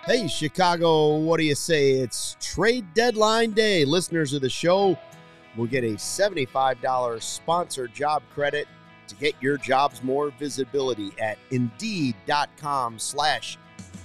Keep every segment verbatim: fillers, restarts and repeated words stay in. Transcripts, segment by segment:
Hey, Chicago, what do you say? It's trade deadline day. Listeners of the show will get a seventy-five dollars sponsored job credit to get your jobs more visibility at Indeed.com slash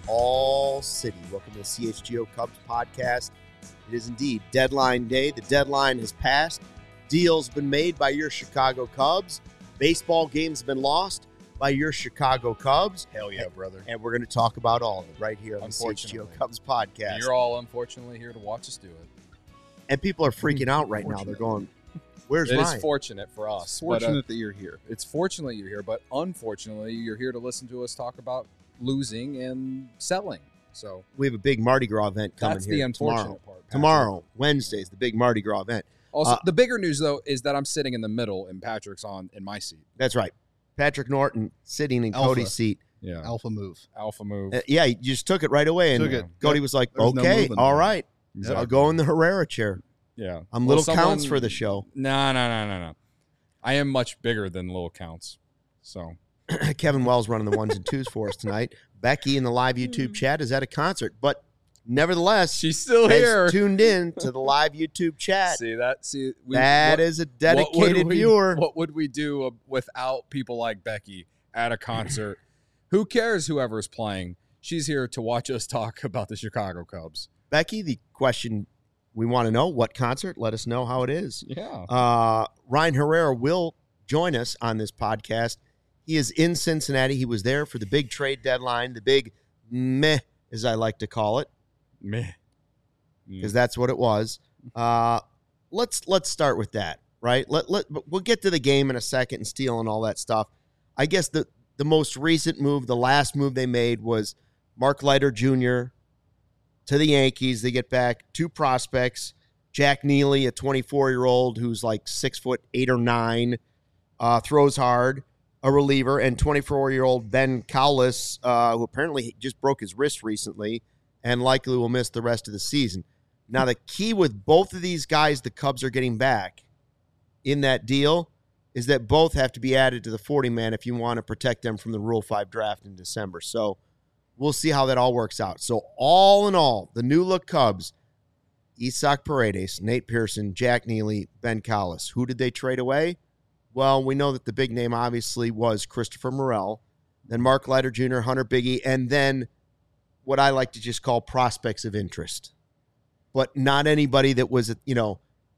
All City. Welcome to the C H G O Cubs podcast. It is indeed deadline day. The deadline has passed. Deals been made by your Chicago Cubs. Baseball games have been lost by your Chicago Cubs. Hell yeah, brother. And we're going to talk about all of it right here on the C H G O Cubs podcast. You're all unfortunately here to watch us do it. And people are freaking out right now. They're going, where's It Ryan? is fortunate for us. It's fortunate but, uh, that you're here. It's fortunate you're here, but unfortunately you're here to listen to us talk about losing and selling. So We have a big Mardi Gras event coming that's here the unfortunate tomorrow. part. Patrick. Tomorrow, Wednesday, is the big Mardi Gras event. Also, Uh, the bigger news though is that I'm sitting in the middle and Patrick's on in my seat. That's right. Patrick Norton sitting in Alpha. Cody's seat. Yeah. Alpha move. Alpha move. Uh, yeah, he just took it right away. And Took it. Cody Yep. was like, There's no okay, moving all there. right. Exactly. I'll go in the Herrera chair. Yeah. I'm Well, little counts someone- for the show. No, no, no, no, no. I am much bigger than little counts. So Kevin Wells running the ones and twos for us tonight. Becky in the live YouTube chat is at a concert, but nevertheless, she's still has here. tuned in to the live YouTube chat. See that? See we, That what- is a what would dedicated we- viewer. What would we do uh, without people like Becky at a concert? Who cares whoever's playing? She's here to watch us talk about the Chicago Cubs. Becky, the question we want to know, what concert? Let us know how it is. Yeah. Uh, Ryan Herrera will join us on this podcast. He is in Cincinnati. He was there for the big trade deadline, the big meh, as I like to call it, Meh. because that's what it was. Uh, let's let's start with that, right? Let let we'll get to the game in a second and Steele and all that stuff. I guess the the most recent move, the last move they made was Mark Leiter Junior to the Yankees. They get back two prospects, Jack Neely, a twenty-four-year-old who's like six foot eight or nine, uh, throws hard, a reliever, and twenty-four-year-old Ben Cowlis, uh, who apparently just broke his wrist recently and likely will miss the rest of the season. Now, the key with both of these guys the Cubs are getting back in that deal is that both have to be added to the forty-man if you want to protect them from the Rule five draft in December. So we'll see how that all works out. So all in all, the new-look Cubs, Isaac Paredes, Nate Pearson, Jack Neely, Ben Cowlis. Who did they trade away? Well, we know that the big name obviously was Christopher Morel, then Mark Leiter Junior, Hunter Biggie, and then what I like to just call prospects of interest. But not anybody that was, you know,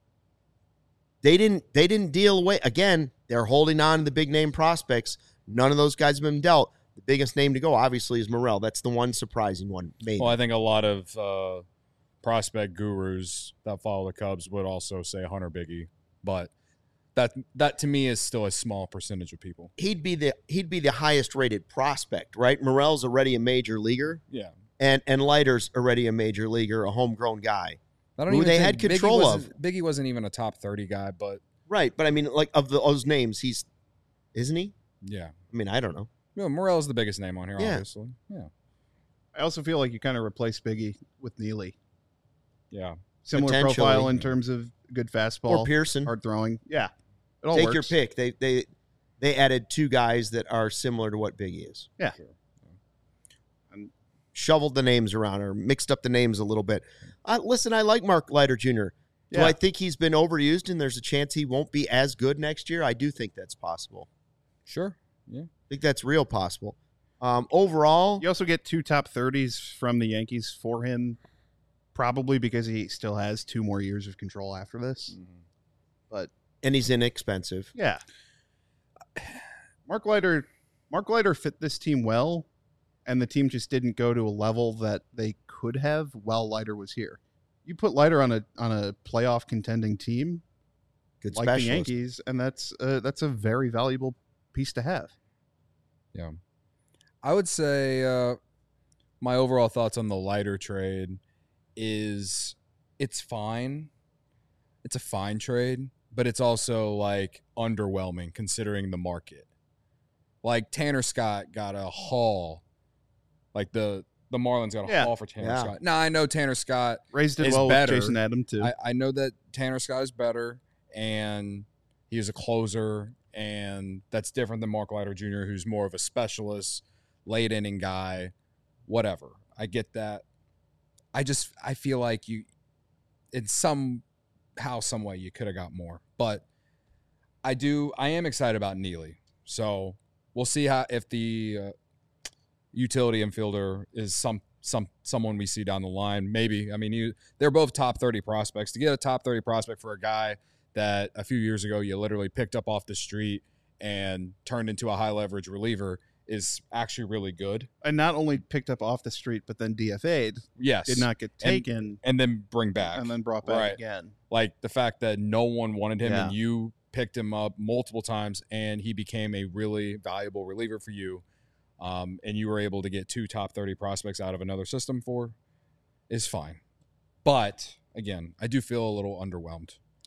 they didn't they didn't deal away. Again, they're holding on to the big name prospects. None of those guys have been dealt. The biggest name to go, obviously, is Morel. That's the one surprising one, maybe. Well, I think a lot of uh, prospect gurus that follow the Cubs would also say Hunter Biggie, but that that to me is still a small percentage of people. He'd be the he'd be the highest rated prospect, right? Morel's already a major leaguer, Yeah. and and Leiter's already a major leaguer, a homegrown guy. I don't Who even they think had Biggie control wasn't- of. Biggie wasn't even a top thirty guy, but Right, but I mean, like, of the, those names, he's, isn't he? yeah. I mean, I don't know. Well, Morel's the biggest name on here, Yeah. obviously. Yeah. I also feel like you kind of replace Biggie with Neely. Yeah. Similar Potentially. profile in terms of good fastball, Or Pearson. hard throwing. Yeah, it all Take works. your pick. They they they added two guys that are similar to what Biggie is. Yeah. Sure. Shoveled the names around or mixed up the names a little bit. Uh, listen, I like Mark Leiter Junior Do Yeah. I think he's been overused and there's a chance he won't be as good next year? I do think that's possible. Sure. Yeah. I think that's real possible. Um, overall, You also get two top thirties from the Yankees for him, probably because he still has two more years of control after this. But and he's inexpensive. yeah, Mark Leiter, Mark Leiter fit this team well, and the team just didn't go to a level that they could have while Leiter was here. You put Leiter on a on a playoff contending team Good like the specialist. Yankees, and that's uh, that's a very valuable piece to have. Yeah. I would say uh, my overall thoughts on the Leiter trade is it's fine. It's a fine trade, but it's also like underwhelming considering the market. Like Tanner Scott got a haul. Like the the Marlins got a Yeah. haul for Tanner Yeah. Scott. Now I know Tanner Scott. Raised it Is well better. with Jason Adam too. I, I know that Tanner Scott is better and he is a closer, and that's different than Mark Leiter Junior, who's more of a specialist, late inning guy, whatever. I get that. I just I feel like you, in somehow, some way, you could have got more. But I do I am excited about Neely. So we'll see how if the uh, utility infielder is some some someone we see down the line. Maybe. I mean, you, they're both top thirty prospects. To get a top thirty prospect for a guy that a few years ago you literally picked up off the street and turned into a high leverage reliever is actually really good. And not only picked up off the street, but then D F A'd. Yes. Did not get taken. And, and then bring back. And then brought back Right. again. Like the fact that no one wanted him Yeah. and you picked him up multiple times and he became a really valuable reliever for you. Um, and you were able to get two top thirty prospects out of another system for is fine. But again, I do feel a little underwhelmed.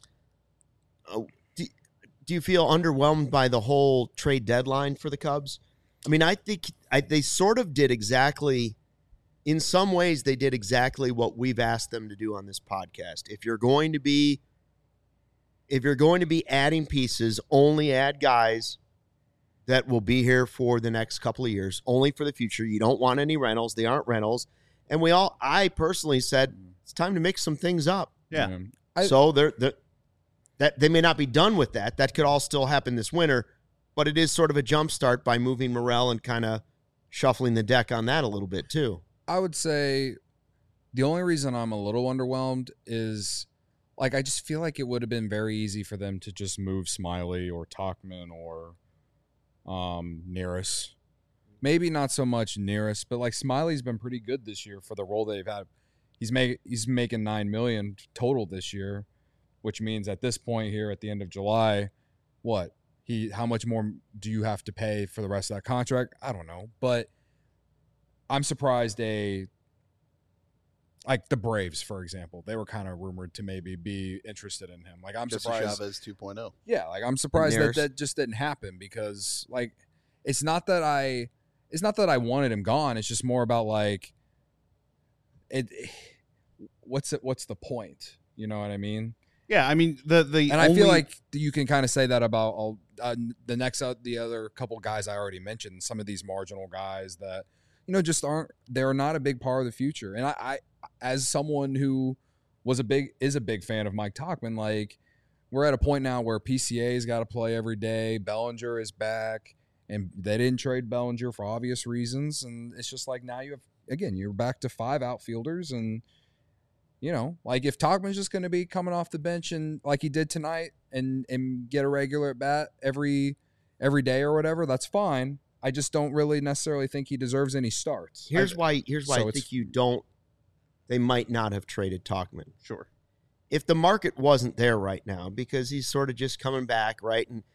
Oh, do, do you feel underwhelmed by the whole trade deadline for the Cubs? I mean, I think I, they sort of did exactly, in some ways, they did exactly what we've asked them to do on this podcast. If you're going to be, if you're going to be adding pieces, only add guys that will be here for the next couple of years, only for the future. You don't want any rentals. They aren't rentals. And we all, I personally said, it's time to mix some things up. Yeah. Um, I, so they're, they're, that they may not be done with that. That could all still happen this winter, but it is sort of a jump start by moving Morel and kind of shuffling the deck on that a little bit too. I would say the only reason I'm a little underwhelmed is, like, I just feel like it would have been very easy for them to just move Smiley or Tauchman or um, Neris. Maybe not so much Neris, but like Smiley's been pretty good this year for the role they've had. He's make he's making nine million dollars total this year, which means at this point here at the end of July, what he how much more do you have to pay for the rest of that contract? I don't know, but I'm surprised a like the Braves, for example, they were kind of rumored to maybe be interested in him. Like I'm Jesse surprised. Chavez two point oh. Yeah, like I'm surprised that Neris. that just didn't happen because like it's not that I it's not that I wanted him gone. It's just more about like it. What's it? What's the point? You know what I mean? Yeah, I mean the the And only, I feel like you can kind of say that about all uh, the next uh, the other couple guys I already mentioned. Some of these marginal guys that you know just aren't they're not a big part of the future. And I, I as someone who was a big is a big fan of Mike Tauchman, like we're at a point now where P C A's got to play every day. Bellinger is back, and they didn't trade Bellinger for obvious reasons. And it's just like now you have again you're back to five outfielders and. You know, like if Tauchman's just going to be coming off the bench and like he did tonight and and get a regular at bat every every day or whatever, that's fine. I just don't really necessarily think he deserves any starts. Here's I, why. Here's why so I it's- think you don't. They might not have traded Tauchman sure. if the market wasn't there right now because he's sort of just coming back, right? And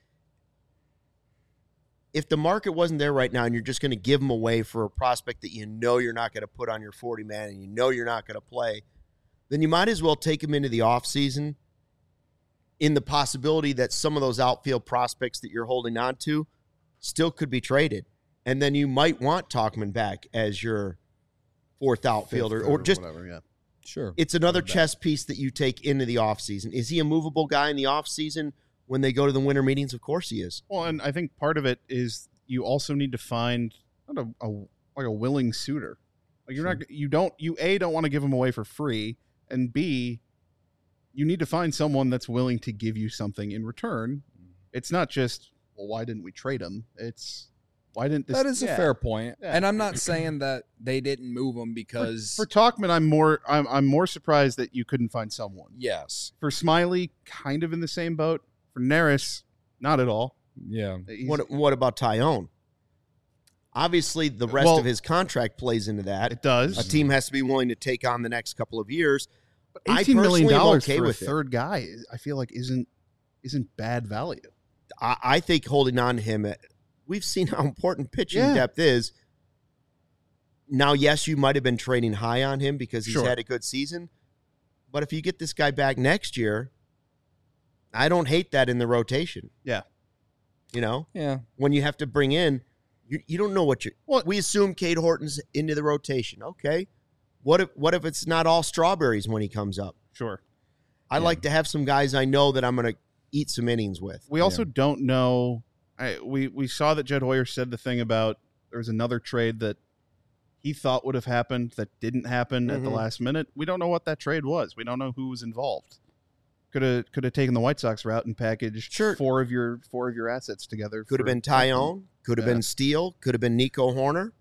if the market wasn't there right now and you're just going to give him away for a prospect that you know you're not going to put on your forty man and you know you're not going to play, then you might as well take him into the offseason in the possibility that some of those outfield prospects that you're holding on to still could be traded. And then you might want Tauchman back as your fourth outfielder Fifth or just whatever, yeah. sure. it's another Love that. chess piece that you take into the offseason. Is he a movable guy in the offseason when they go to the winter meetings? Of course he is. Well, and I think part of it is you also need to find not a, a like a willing suitor. Like you're Sure. not you don't you A don't want to give him away for free, and B you need to find someone that's willing to give you something in return. It's not just, well, why didn't we trade him? It's why didn't this That is yeah. a fair point. Yeah. And I'm not saying that they didn't move him For, because for Tauchman, I'm more I'm I'm more surprised that you couldn't find someone. yes. For Smiley, kind of in the same boat. For Neris, not at all. Yeah. He's- What what about Tyone? Obviously, the rest Well, of his contract plays into that. it does. A team has to be willing to take on the next couple of years. But I eighteen million personally am dollars okay for with a it. third guy, I feel like isn't isn't bad value. I, I think holding on to him, we've seen how important pitching Yeah. depth is. Now, yes, you might have been trading high on him because he's Sure. had a good season. But if you get this guy back next year, I don't hate that in the rotation. Yeah. You know, Yeah. when you have to bring in, you, you don't know what you're. Well- we assume Cade Horton's into the rotation. Okay. What if what if it's not all strawberries when he comes up? Sure. I Yeah. like to have some guys I know that I'm going to eat some innings with. We also don't know. I, we we saw that Jed Hoyer said the thing about there was another trade that he thought would have happened that didn't happen mm-hmm. at the last minute. We don't know what that trade was. We don't know who was involved. Could have could have taken the White Sox route and packaged sure. four of your four of your assets together. Could have been Taillon. Could have yeah. been Steele. Could have been Nico Hoerner.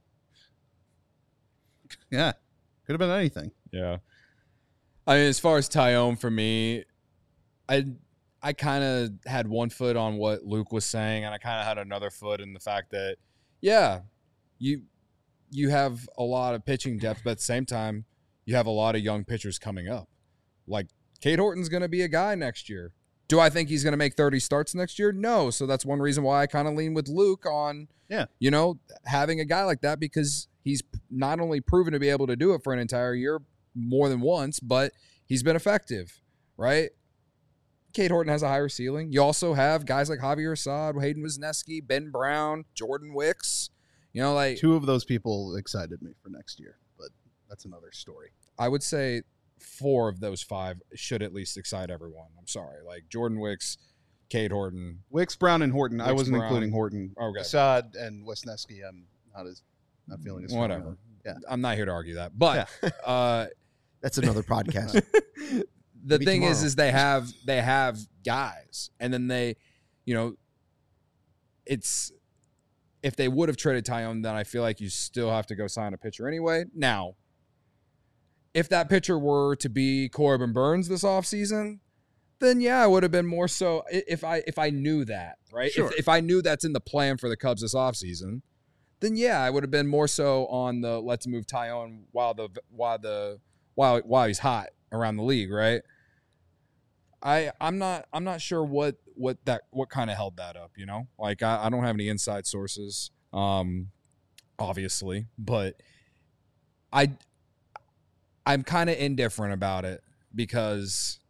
Yeah, could have been anything. Yeah, I mean, as far as Taillon for me, I I kind of had one foot on what Luke was saying, and I kind of had another foot in the fact that yeah, you you have a lot of pitching depth, but at the same time, you have a lot of young pitchers coming up, like. Cade Horton's going to be a guy next year. Do I think he's going to make thirty starts next year? No. So that's one reason why I kind of lean with Luke on, yeah, you know, having a guy like that because he's not only proven to be able to do it for an entire year more than once, but he's been effective, right? Cade Horton has a higher ceiling. You also have guys like Javier Assad, Hayden Wesneski, Ben Brown, Jordan Wicks. You know, like two of those people excited me for next year, but that's another story. I would say four of those five should at least excite everyone. I'm sorry. Like Jordan Wicks, Cade Horton. Wicks, Brown, and Horton. Wicks, I wasn't Brown. including Horton. Okay. Assad and Wesneski, I'm not as not feeling as whatever. Yeah. I'm not here to argue that. But yeah. uh, that's another podcast. the Maybe thing tomorrow. is, is they have they have guys, and then they, you know, it's if they would have traded Taillon, then I feel like you still have to go sign a pitcher anyway. Now, if that pitcher were to be Corbin Burns this offseason, then yeah, I would have been more so if I if I knew that, right? Sure. If, if I knew that's in the plan for the Cubs this offseason, then yeah, I would have been more so on the let's move Taillon while the while the while while he's hot around the league, right? I I'm not I'm not sure what what that what kind of held that up, you know? Like I, I don't have any inside sources, um, obviously, but I I'm kind of indifferent about it because,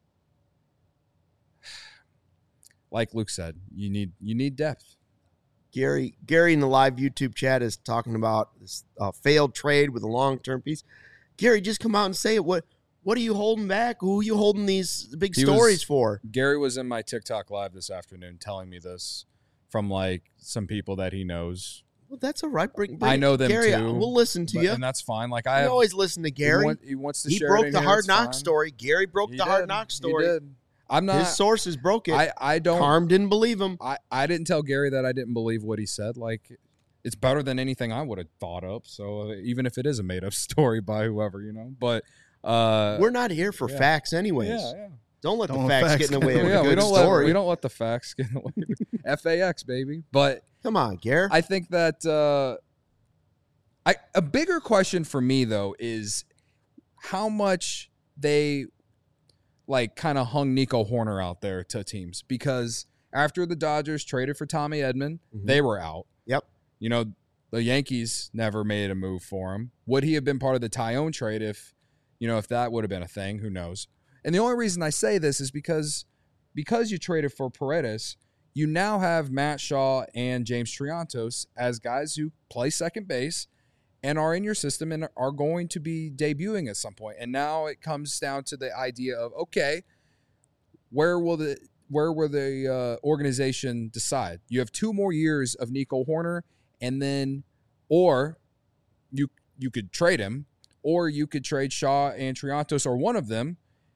like Luke said, you need you need depth. Gary Gary in the live YouTube chat is talking about this uh, failed trade with a long-term piece. Gary, just come out and say it. What what are you holding back? Who are you holding these big He stories was- for? Gary was in my TikTok live this afternoon telling me this from like some people that he knows. Well, that's all right. Bring, bring I know them Gary, too. We'll listen to but, you. And that's fine. Like I I have, always listen to Gary. He, want, he wants to he share broke it in the here, Hard it's Knock fine. story. Gary broke He the did. Hard Knock story. He did. I'm not. His sources broke it. I, I don't. Carm didn't believe him. I, I didn't tell Gary that I didn't believe what he said. Like, it's better than anything I would have thought up. So uh, even if it is a made up story by whoever, you know. But uh, we're not here for yeah. facts, anyways. Yeah, yeah. Don't let Don't the let facts, facts get in the way of yeah, a good we don't story. let we don't let the facts get in the way. F A X, baby. But Come on, Gary. I think that uh, I a bigger question for me though is how much they like kind of hung Nico Hoerner out there to teams, because after the Dodgers traded for Tommy Edman, Mhm. they were out. Yep. You know, the Yankees never made a move for him. Would he have been part of the Taillon trade if, you know, if that would have been a thing? Who knows? And the only reason I say this is because because you traded for Paredes, you now have Matt Shaw and James Triantos as guys who play second base and are in your system and are going to be debuting at some point. And now it comes down to the idea of, okay, where will the where will the uh, organization decide? You have two more years of Nico Hoerner, and then, or you you could trade him, or you could trade Shaw and Triantos, or one of them,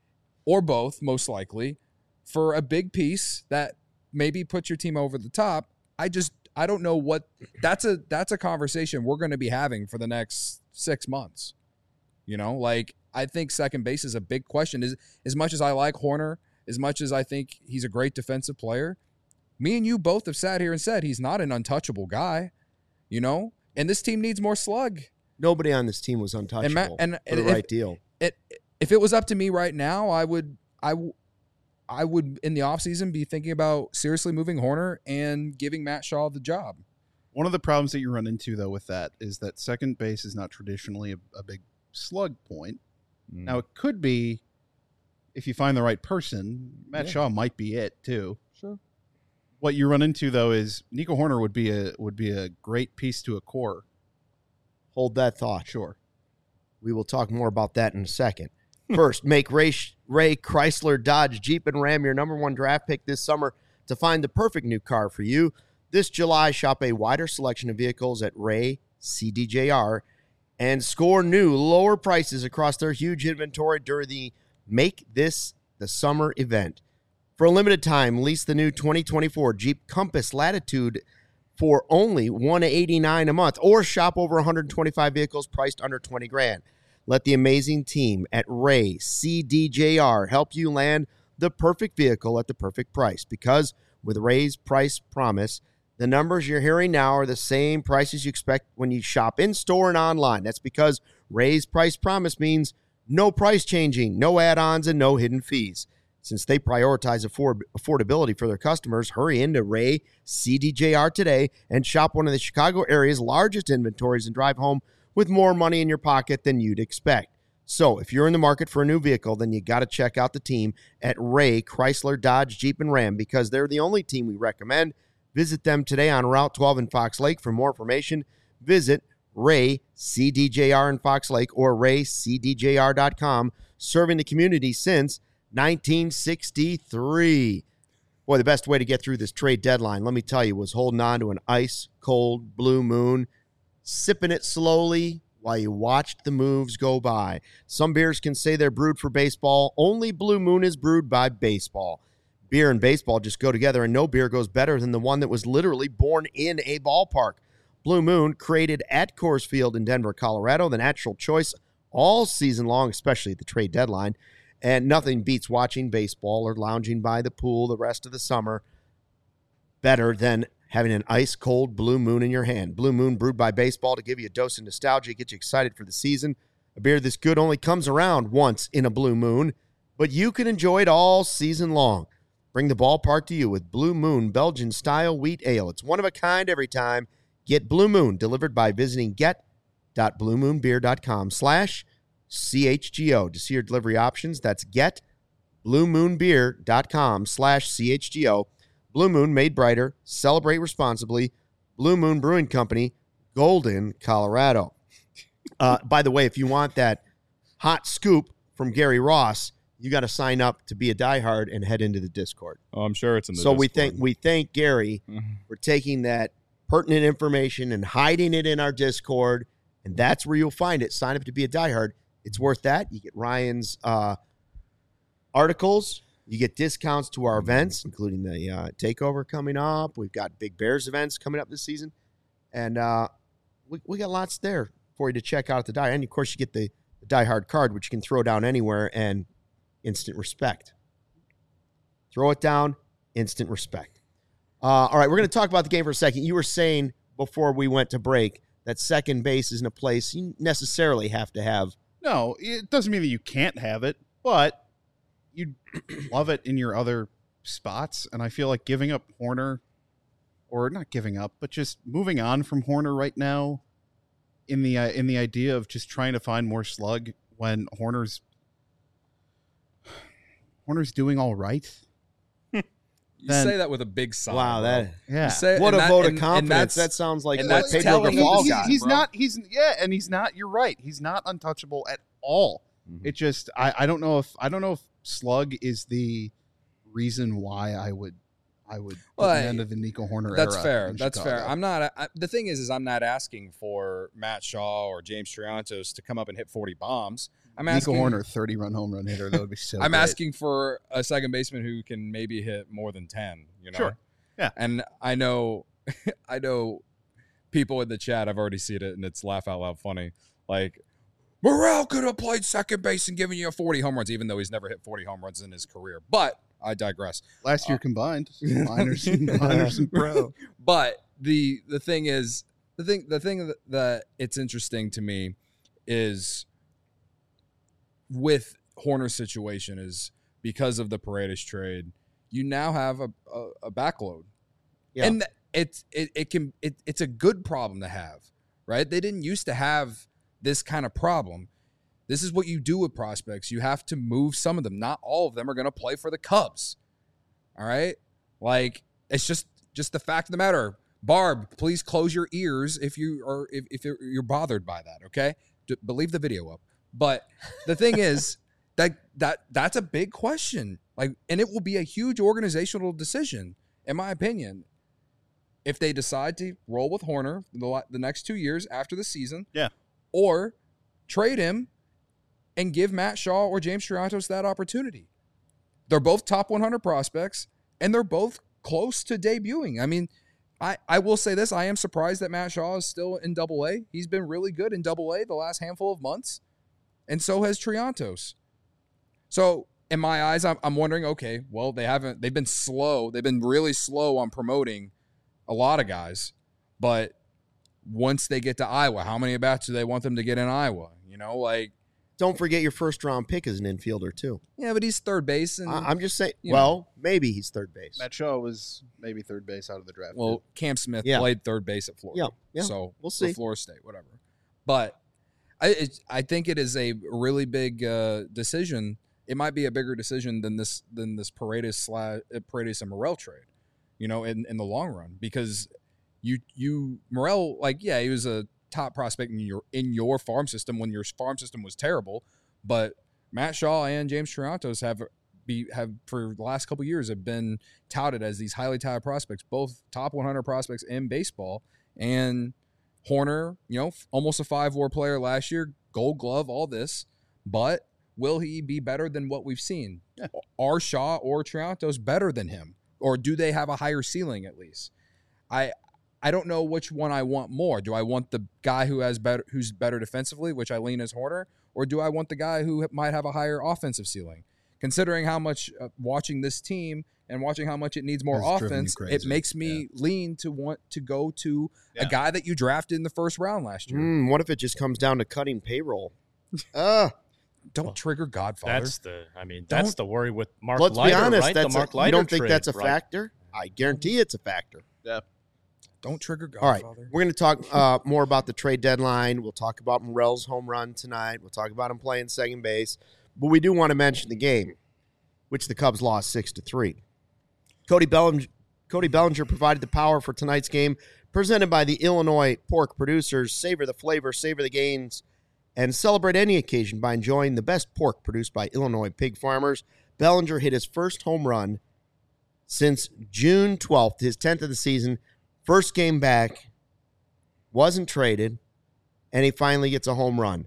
or both, most likely, for a big piece that maybe puts your team over the top. I just I don't know what that's a that's a conversation we're going to be having for the next six months. You know, like I think second base is a big question. As as much as I like Hoerner, as much as I think he's a great defensive player, me and you both have sat here and said he's not an untouchable guy. You know, and this team needs more slug. Nobody on this team was untouchable And, Ma- and, for and the if, right deal. It, if it was up to me right now, I would I, w- I would in the offseason be thinking about seriously moving Hoerner and giving Matt Shaw the job. One of the problems that you run into, though, with that is that second base is not traditionally a, a big slug point. Mm. Now, it could be if you find the right person. Matt Yeah. Shaw might be it, too. Sure. What you run into, though, is Nico Hoerner would be a would be a great piece to a core. Hold that thought. Sure. We will talk more about that in a second. First, make Ray, Ray Chrysler, Dodge, Jeep, and Ram your number one draft pick this summer to find the perfect new car for you. This July, shop a wider selection of vehicles at Ray C D J R and score new lower prices across their huge inventory during the Make This the Summer event. For a limited time, lease the new twenty twenty-four Jeep Compass Latitude for only one hundred eighty-nine dollars a month, or shop over one hundred twenty-five vehicles priced under twenty grand. Let the amazing team at Ray C D J R help you land the perfect vehicle at the perfect price, because with Ray's price promise, the numbers you're hearing now are the same prices you expect when you shop in-store and online. That's because Ray's price promise means no price changing, no add-ons, and no hidden fees. Since they prioritize afford- affordability for their customers, hurry into Ray C D J R today and shop one of the Chicago area's largest inventories and drive home with more money in your pocket than you'd expect. So if you're in the market for a new vehicle, then you got to check out the team at Ray Chrysler, Dodge, Jeep, and Ram, because they're the only team we recommend. Visit them today on Route twelve in Fox Lake. For more information, visit Ray C D J R in Fox Lake or ray c d j r dot com, serving the community since nineteen sixty-three. Boy, the best way to get through this trade deadline, let me tell you, was holding on to an ice-cold Blue Moon, sipping it slowly while you watched the moves go by. Some beers can say they're brewed for baseball. Only Blue Moon is brewed by baseball. Beer and baseball just go together, and no beer goes better than the one that was literally born in a ballpark. Blue Moon, created at Coors Field in Denver, Colorado, the natural choice all season long, especially at the trade deadline. And nothing beats watching baseball or lounging by the pool the rest of the summer better than having an ice-cold Blue Moon in your hand. Blue Moon, brewed by baseball to give you a dose of nostalgia, get you excited for the season. A beer this good only comes around once in a Blue Moon, but you can enjoy it all season long. Bring the ballpark to you with Blue Moon Belgian-style wheat ale. It's one of a kind every time. Get Blue Moon delivered by visiting get.bluemoonbeer.com slash CHGO to see your delivery options. That's get.bluemoonbeer.com slash CHGO. Blue Moon, made brighter. Celebrate responsibly. Blue Moon Brewing Company, Golden, Colorado. Uh, by the way, if you want that hot scoop from Gary Ross, you got to sign up to be a diehard and head into the Discord. Oh, I'm sure it's in the so Discord. we thank we thank Gary for taking that pertinent information and hiding it in our Discord, and that's where you'll find it. Sign up to be a diehard. It's worth that. You get Ryan's uh, articles. You get discounts to our events, including the uh, takeover coming up. We've got Big Bears events coming up this season. And uh, we, we got lots there for you to check out at the Die. And, of course, you get the, the Die Hard card, which you can throw down anywhere, and instant respect. Throw it down, instant respect. Uh, all right, we're going to talk about the game for a second. You were saying before we went to break that second base isn't a place you necessarily have to have. No, it doesn't mean that you can't have it, but you'd love it in your other spots. And I feel like giving up Horner, or not giving up, but just moving on from Horner right now in the uh, in the idea of just trying to find more slug when Horner's Horner's doing all right. You then, say that with a big sigh. Wow, bro. that yeah. You say- what a and that- vote and- of and confidence. that's- That sounds like and what that's Pedro telling- Grafal he's, got. he's bro. not he's yeah, and he's not, you're right, he's not untouchable at all. Mhm. It just I, I don't know if I don't know if slug is the reason why I would I would put Well, the end of the Nico Horner That's era fair. in That's fair. Chicago. I'm not. I, the thing is, is I'm not asking for Matt Shaw or James Triantos to come up and hit forty bombs. I'm Nico asking. Horner, thirty run home run hitter. That would be so. I'm great. asking for a second baseman who can maybe hit more than ten. You know. Sure. Yeah. And I know, I know, people in the chat. I've already seen it, and it's laugh out loud funny. Like, Morel could have played second base and given you forty home runs, even though he's never hit forty home runs in his career. But I digress. last year uh, combined, minors, and minors and pro. But the the thing is, the thing the thing that, that it's interesting to me is with Horner's situation is because of the Paredes trade, you now have a, a, a backload, Yeah. and it's it, it can it, it's a good problem to have, right? They didn't used to have this kind of problem. This is what you do with prospects. You have to move some of them. Not all of them are going to play for the Cubs. All right? Like, it's just just the fact of the matter. Barb, please close your ears if you are if, if you're, you're bothered by that, okay? D- believe the video up. But the thing is that that that's a big question. Like, and it will be a huge organizational decision, in my opinion, if they decide to roll with Horner the, the next two years after the season. Yeah. or trade him and give Matt Shaw or James Triantos that opportunity. They're both top one hundred prospects, and they're both close to debuting. I mean, I, I will say this. I am surprised that Matt Shaw is still in double A. He's been really good in double A the last handful of months, and so has Triantos. So in my eyes, I'm, I'm wondering, okay, well, they haven't, they've been slow. They've been really slow on promoting a lot of guys, but once they get to Iowa, how many at-bats do they want them to get in Iowa? You know, like, don't forget your first round pick is an infielder too. Yeah, but he's third base. And I, I'm just saying, well, know. maybe he's third base. Matt Shaw was maybe third base out of the draft. Well, too. Cam Smith yeah. played third base at Florida. Yeah, yeah. So we'll see. Florida State, whatever. But I it, I think it is a really big uh, decision. It might be a bigger decision than this than this Paredes slash Paredes and Morel trade, you know, in, in the long run, because you you Morel, like, yeah, he was a top prospect in your in your farm system when your farm system was terrible. But Matt Shaw and James Triantos have be have for the last couple of years have been touted as these highly touted prospects, both top one hundred prospects in baseball. And Horner, you know, almost a five-war player last year, Gold Glove, all this. But will he be better than what we've seen? Yeah. Are Shaw or Triantos better than him, or do they have a higher ceiling at least? I. I don't know which one I want more. Do I want the guy who has better, who's better defensively, which I lean as Horner, or do I want the guy who might have a higher offensive ceiling? Considering how much uh, watching this team and watching how much it needs more That's offense, it makes me yeah. lean to want to go to yeah. a guy that you drafted in the first round last year. Mm, what if it just comes down to cutting payroll? uh, don't well, trigger Godfather. That's the. I mean, that's Don't, the worry with Mark. Let's Leiter, be honest. right? That's the Mark a, Leiter you don't think trade, that's a right? factor? I guarantee it's a factor. Yeah. Don't trigger All right, Godfather. we're going to talk uh, more about the trade deadline. We'll talk about Morel's home run tonight. We'll talk about him playing second base. But we do want to mention the game, which the Cubs lost six to three. Cody Bellinger, Cody Bellinger provided the power for tonight's game, presented by the Illinois Pork Producers. Savor the flavor, savor the gains, and celebrate any occasion by enjoying the best pork produced by Illinois pig farmers. Bellinger hit his first home run since June twelfth, his tenth of the season. First game back, wasn't traded, and he finally gets a home run.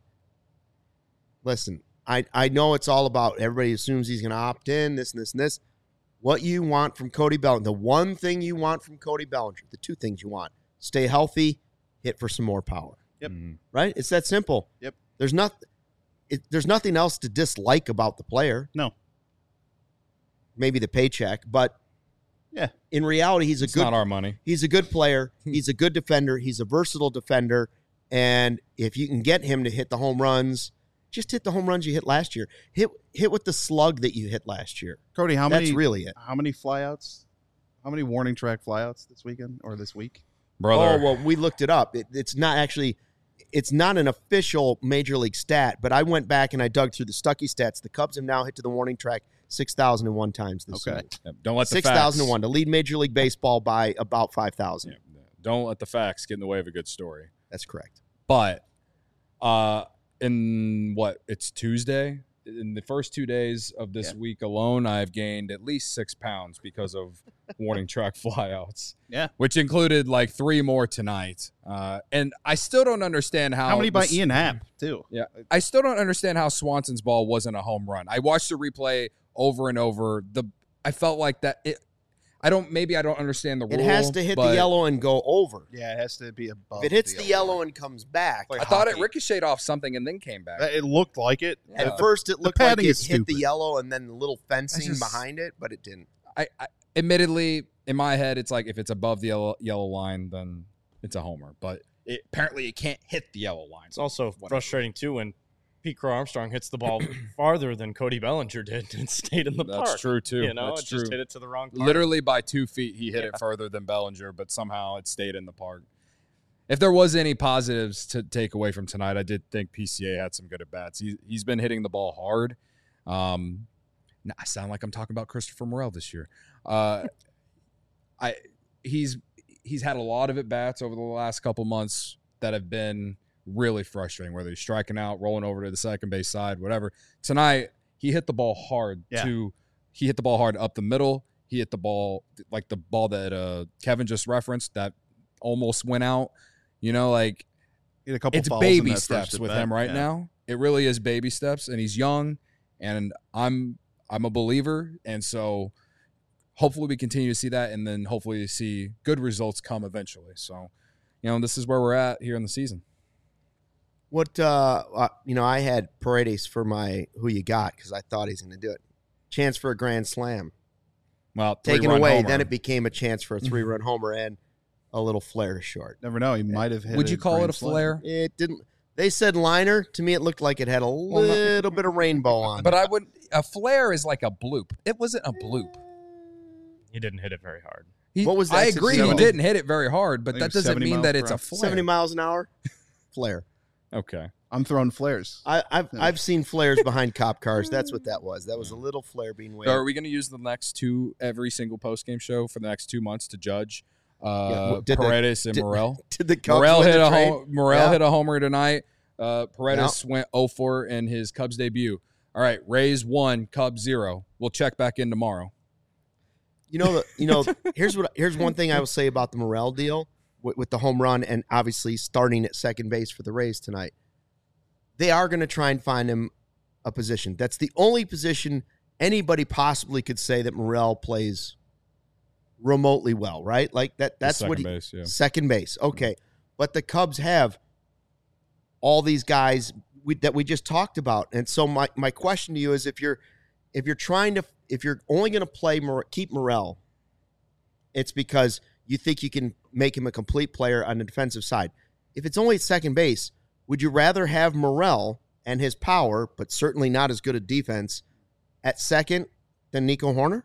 Listen, I, I know it's all about everybody assumes he's going to opt in, this and this and this. What you want from Cody Bellinger, the one thing you want from Cody Bellinger, the two things you want, stay healthy, hit for some more power. Yep. Mm-hmm. Right? It's that simple. Yep. There's not, it, there's nothing else to dislike about the player. No. Maybe the paycheck, but yeah, in reality, he's a it's good. not our money. He's a good player. He's a good defender. He's a versatile defender, and if you can get him to hit the home runs, just hit the home runs you hit last year. Hit hit with the slug that you hit last year. Cody, how That's many? really it. How many flyouts? How many warning track flyouts this weekend or this week? Brother. Oh well, we looked it up. It, it's not actually. It's not an official major league stat, but I went back and I dug through the Stuckey stats. The Cubs have now hit to the warning track six thousand one times this Okay. season. Yeah, don't let the six thousand one to lead Major League Baseball by about five thousand. Yeah, don't let the facts get in the way of a good story. That's correct. But uh, in what? It's Tuesday. In the first two days of this Yeah. week alone, I've gained at least six pounds because of warning track flyouts. Yeah. Which included like three more tonight. Uh, and I still don't understand how. How many by the- Ian Happ too? Yeah. I still don't understand how Swanson's ball wasn't a home run. I watched the replay over and over. The I felt like that it I don't maybe I don't understand the rule. It has to hit the but yellow and go over. Yeah, it has to be above. If it hits the yellow and comes back, Like I thought it hockey. ricocheted off something and then came back. It looked like it. Yeah. at first it looked like padding it is hit the stupid. yellow and then the little fencing just- behind it, but it didn't. I, I admittedly in my head it's like if it's above the yellow, yellow line then it's a homer, but it, apparently it can't hit the yellow line. It's also Whatever. frustrating too when Pete Crow Armstrong hits the ball farther than Cody Bellinger did and stayed in the That's park. true too. You know, That's it just true. hit it to the wrong part. Literally by two feet, he hit it further than Bellinger, but somehow it stayed in the park. If there was any positives to take away from tonight, I did think P C A had some good at bats. He, he's been hitting the ball hard. Um, now I sound like I'm talking about Christopher Morel this year. Uh, I he's he's had a lot of at bats over the last couple months that have been really frustrating, whether he's striking out, rolling over to the second base side, whatever. Tonight, he hit the ball hard Yeah. to he hit the ball hard up the middle. He hit the ball like the ball that uh, Kevin just referenced that almost went out. You know, like He had a couple it's falls in baby that steps first with at-bat. him right Yeah. now. It really is baby steps, and he's young, and I'm I'm a believer, and so hopefully we continue to see that, and then hopefully see good results come eventually. So, you know, this is where we're at here in the season. What uh, uh you know, I had Paredes for my who you got because I thought he's going to do it. Chance for a grand slam. Well, Taken three-run away, homer. then it became a chance for a three-run homer and a little flare to short. Never know. He might have hit. Would you call it grand a slam. flare? It didn't. They said liner. To me, it looked like it had a no- little bit of rainbow on But it. I would a flare is like a bloop. It wasn't a bloop. He didn't hit it very hard. He, What was that, I agree. He seventy? didn't hit it very hard, but I think that it was doesn't seventy mean miles that per it's a hour. flare. seventy miles an hour, flare. Okay. I'm throwing flares. I, I've Yeah. I've seen flares behind cop cars. That's what that was. That was a little flare being waved. So are we going to use the next two every single post game show for the next two months to judge uh, well, did the- Paredes and did- Morel? Did the Cubs Morel win hit the a trade? home, Morel Yeah. hit a homer tonight. Uh, Paredes went oh for in his Cubs debut. All right, Rays one, Cubs zero. We'll check back in tomorrow. You know, the, you know. Here's what. Here's one thing I will say about the Morel deal with, with the home run, and obviously starting at second base for the Rays tonight. They are going to try and find him a position. That's the only position anybody possibly could say that Morel plays remotely well, right? Like that. That's Second what he. base, yeah. Second base. Okay, but the Cubs have all these guys we, that we just talked about, and so my my question to you is: if you're if you're trying to if you're only going to play Mor- keep Morel, it's because you think you can make him a complete player on the defensive side. If it's only at second base, would you rather have Morel and his power, but certainly not as good a defense, at second than Nico Horner?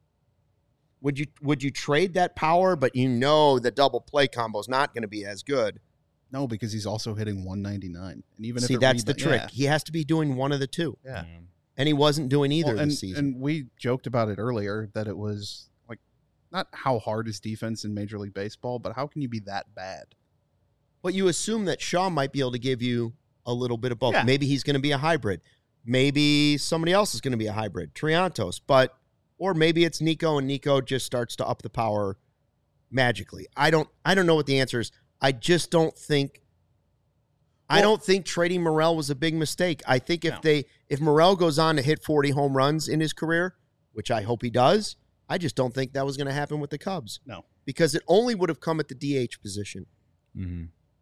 Would you would you trade that power, but you know the double play combo is not going to be as good? No, because he's also hitting one ninety-nine. And even See, if it that's the rebound- trick. yeah. He has to be doing one of the two, Yeah. and he wasn't doing either Well, and, this season. and we joked about it earlier that it was like not how hard is defense in Major League Baseball, but how can you be that bad? But you assume that Shaw might be able to give you a little bit of both. Yeah. Maybe he's going to be a hybrid. Maybe somebody else is going to be a hybrid, Triantos. But or maybe it's Nico, and Nico just starts to up the power magically. I don't. I don't know what the answer is. I just don't think. I Well- don't think trading Morel was a big mistake. I think if No. they if Morel goes on to hit forty home runs in his career, which I hope he does, I just don't think that was going to happen with the Cubs. No. Because it only would have come at the D H position, Mm-hmm.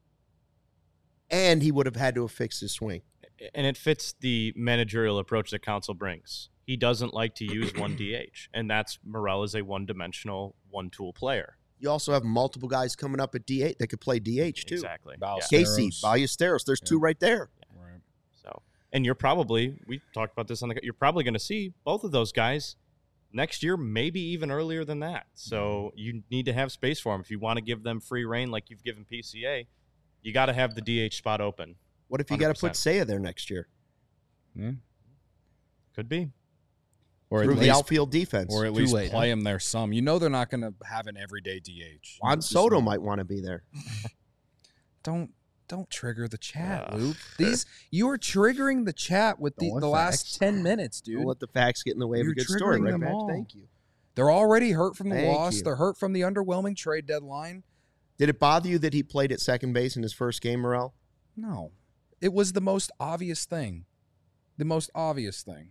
and he would have had to have fixed his swing. And it fits the managerial approach that Council brings. He doesn't like to use one D H, and that's Morel is a one-dimensional, one-tool player. You also have multiple guys coming up at D H that could play D H too. Exactly. Ballesteros. Yeah. Casey, Ballesteros. There's two right there. Right. So, and you're probably we talked about this on the. You're probably going to see both of those guys next year, maybe even earlier than that. So you need to have space for them if you want to give them free reign, like you've given P C A. You got to have the D H spot open. What if you one got hundred to put percent. Seiya there next year? Yeah. Could be. Or at Through the least, outfield defense. or at Too least late, play him there some. You know they're not going to have an everyday D H. Juan Just Soto know- might want to be there. Don't don't trigger the chat, Uh. Luke. These you are triggering the chat with the, Don't let the last facts. ten minutes, dude. Don't let the facts get in the way of You're a good story, triggering right, them Patch? all. Thank you. They're already hurt from the Thank loss. you. They're hurt from the underwhelming trade deadline. Did it bother you that he played at second base in his first game, Morel? No, it was the most obvious thing. The most obvious thing.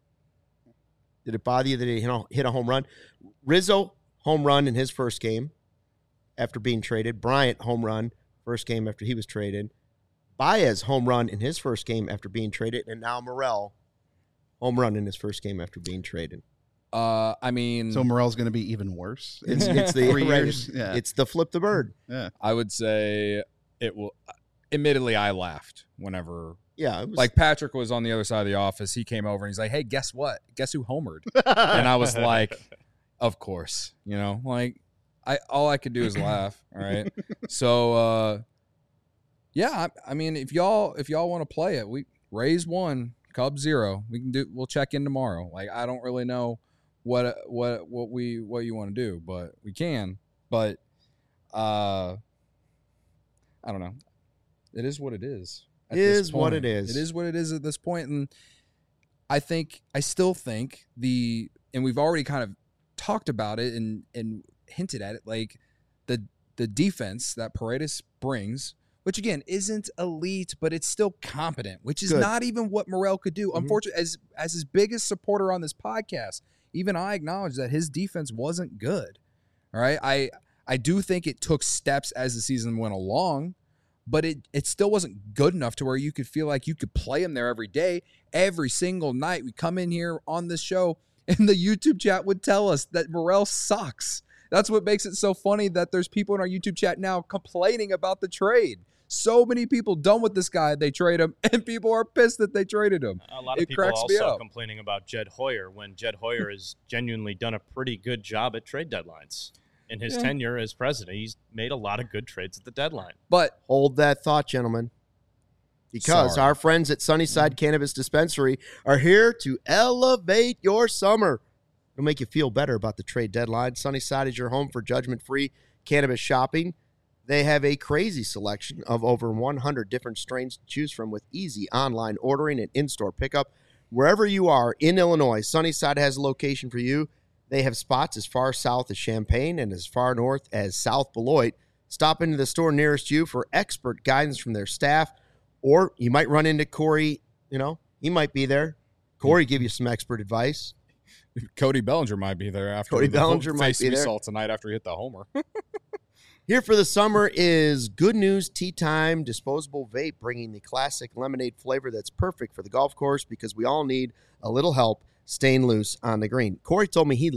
Did it bother you that he hit a- hit a home run? Rizzo, home run in his first game after being traded. Bryant, home run, first game after he was traded. Baez, home run in his first game after being traded. And now Morel, home run in his first game after being traded. Uh, I mean, So Morel's going to be even worse. It's, it's the Three right, years, yeah. It's the flip the bird. Yeah. I would say it will. Admittedly, I laughed whenever, Yeah, it was like Patrick was on the other side of the office. He came over and he's like, "Hey, guess what? Guess who homered?" And I was like, "Of course." You know, like I all I could do is laugh. All right. So, uh, yeah, I, I mean, if y'all if y'all want to play it, we Rays one, Cubs zero. We can do. We'll check in tomorrow. Like I don't really know what what what we what you want to do, but we can. But uh, I don't know. It is what it is. at It this is what point. it is. It is what it is at this point, and I think I still think the and we've already kind of talked about it and and hinted at it, like the the defense that Paredes brings which again isn't elite, but it's still competent, which is Good. not even what Morrell could do. Mhm. Unfortunately, as as his biggest supporter on this podcast, even I acknowledge that his defense wasn't good. All right, I I do think it took steps as the season went along, but it it still wasn't good enough to where you could feel like you could play him there every day, every single night. We come in here on this show, and the YouTube chat would tell us that Morrell sucks. That's what makes it so funny that there's people in our YouTube chat now complaining about the trade. So many people done with this guy, they trade him, and people are pissed that they traded him. A lot of It people cracks me also up. complaining about Jed Hoyer when Jed Hoyer has genuinely done a pretty good job at trade deadlines. In his Yeah. tenure as president, he's made a lot of good trades at the deadline. But Hold that thought, gentlemen. Because Sorry. our friends at Sunnyside Cannabis Dispensary are here to elevate your summer. It'll make you feel better about the trade deadline. Sunnyside is your home for judgment-free cannabis shopping. They have a crazy selection of over one hundred different strains to choose from with easy online ordering and in-store pickup. Wherever you are in Illinois, Sunnyside has a location for you. They have spots as far south as Champaign and as far north as South Beloit. Stop into the store nearest you for expert guidance from their staff, or you might run into Corey. You know, he might be there. Corey give you some expert advice. Cody Bellinger might be there after Cody the Bellinger might face be we there. saw tonight after he hit the homer. Here for the summer is Good News Tea Time disposable vape, bringing the classic lemonade flavor that's perfect for the golf course because we all need a little help staying loose on the green. Corey told me he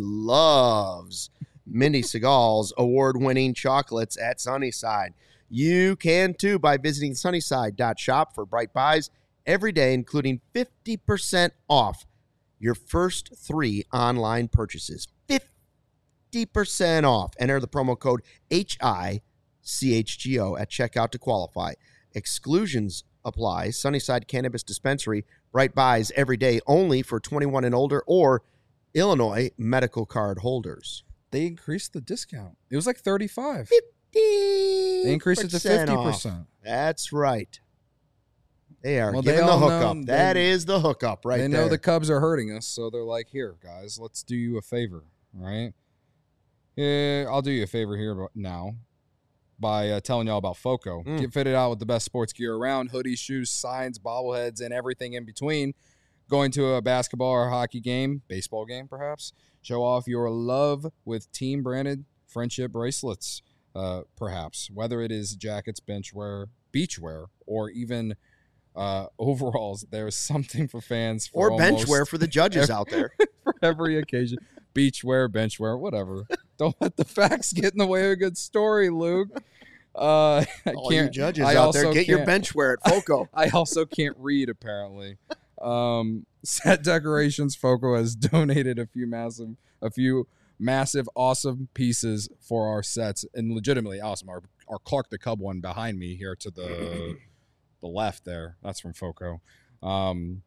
loves Mindy Segal's award-winning chocolates at Sunnyside. You can too by visiting sunnyside dot shop for bright buys every day, including fifty percent off your first three online purchases. fifty percent off. Enter the promo code H I C H G O at checkout to qualify. Exclusions apply. Sunnyside Cannabis Dispensary. Bright buys every day only for twenty-one and older or Illinois medical card holders. They increased the discount. It was like thirty-five. They They increased it to fifty percent. That's right. They are Well, they giving the all hookup. know- That they- is the hookup right they there. know the Cubs are hurting us, so they're like, here, guys, let's do you a favor, all right? Yeah, I'll do you a favor here but now by uh, telling y'all about FOCO. Mm. Get fitted out with the best sports gear around, hoodies, shoes, signs, bobbleheads, and everything in between. Going to a basketball or hockey game, baseball game perhaps. Show off your love with team-branded friendship bracelets, uh, perhaps. Whether it is jackets, bench wear, beach wear, or even uh, overalls, there's something for fans for or bench almost wear for the judges out there. for every occasion. Beach wear, bench wear, whatever. Don't let the facts get in the way of a good story, Luke. Uh, I All you can't. judges I out there, also get your can't- bench wear at FOCO. I also can't read, apparently. Um, Set Decorations FOCO has donated a few massive, a few massive, awesome pieces for our sets, and legitimately awesome. Our, our Clark the Cub one behind me here to the the left there. That's from FOCO. Um,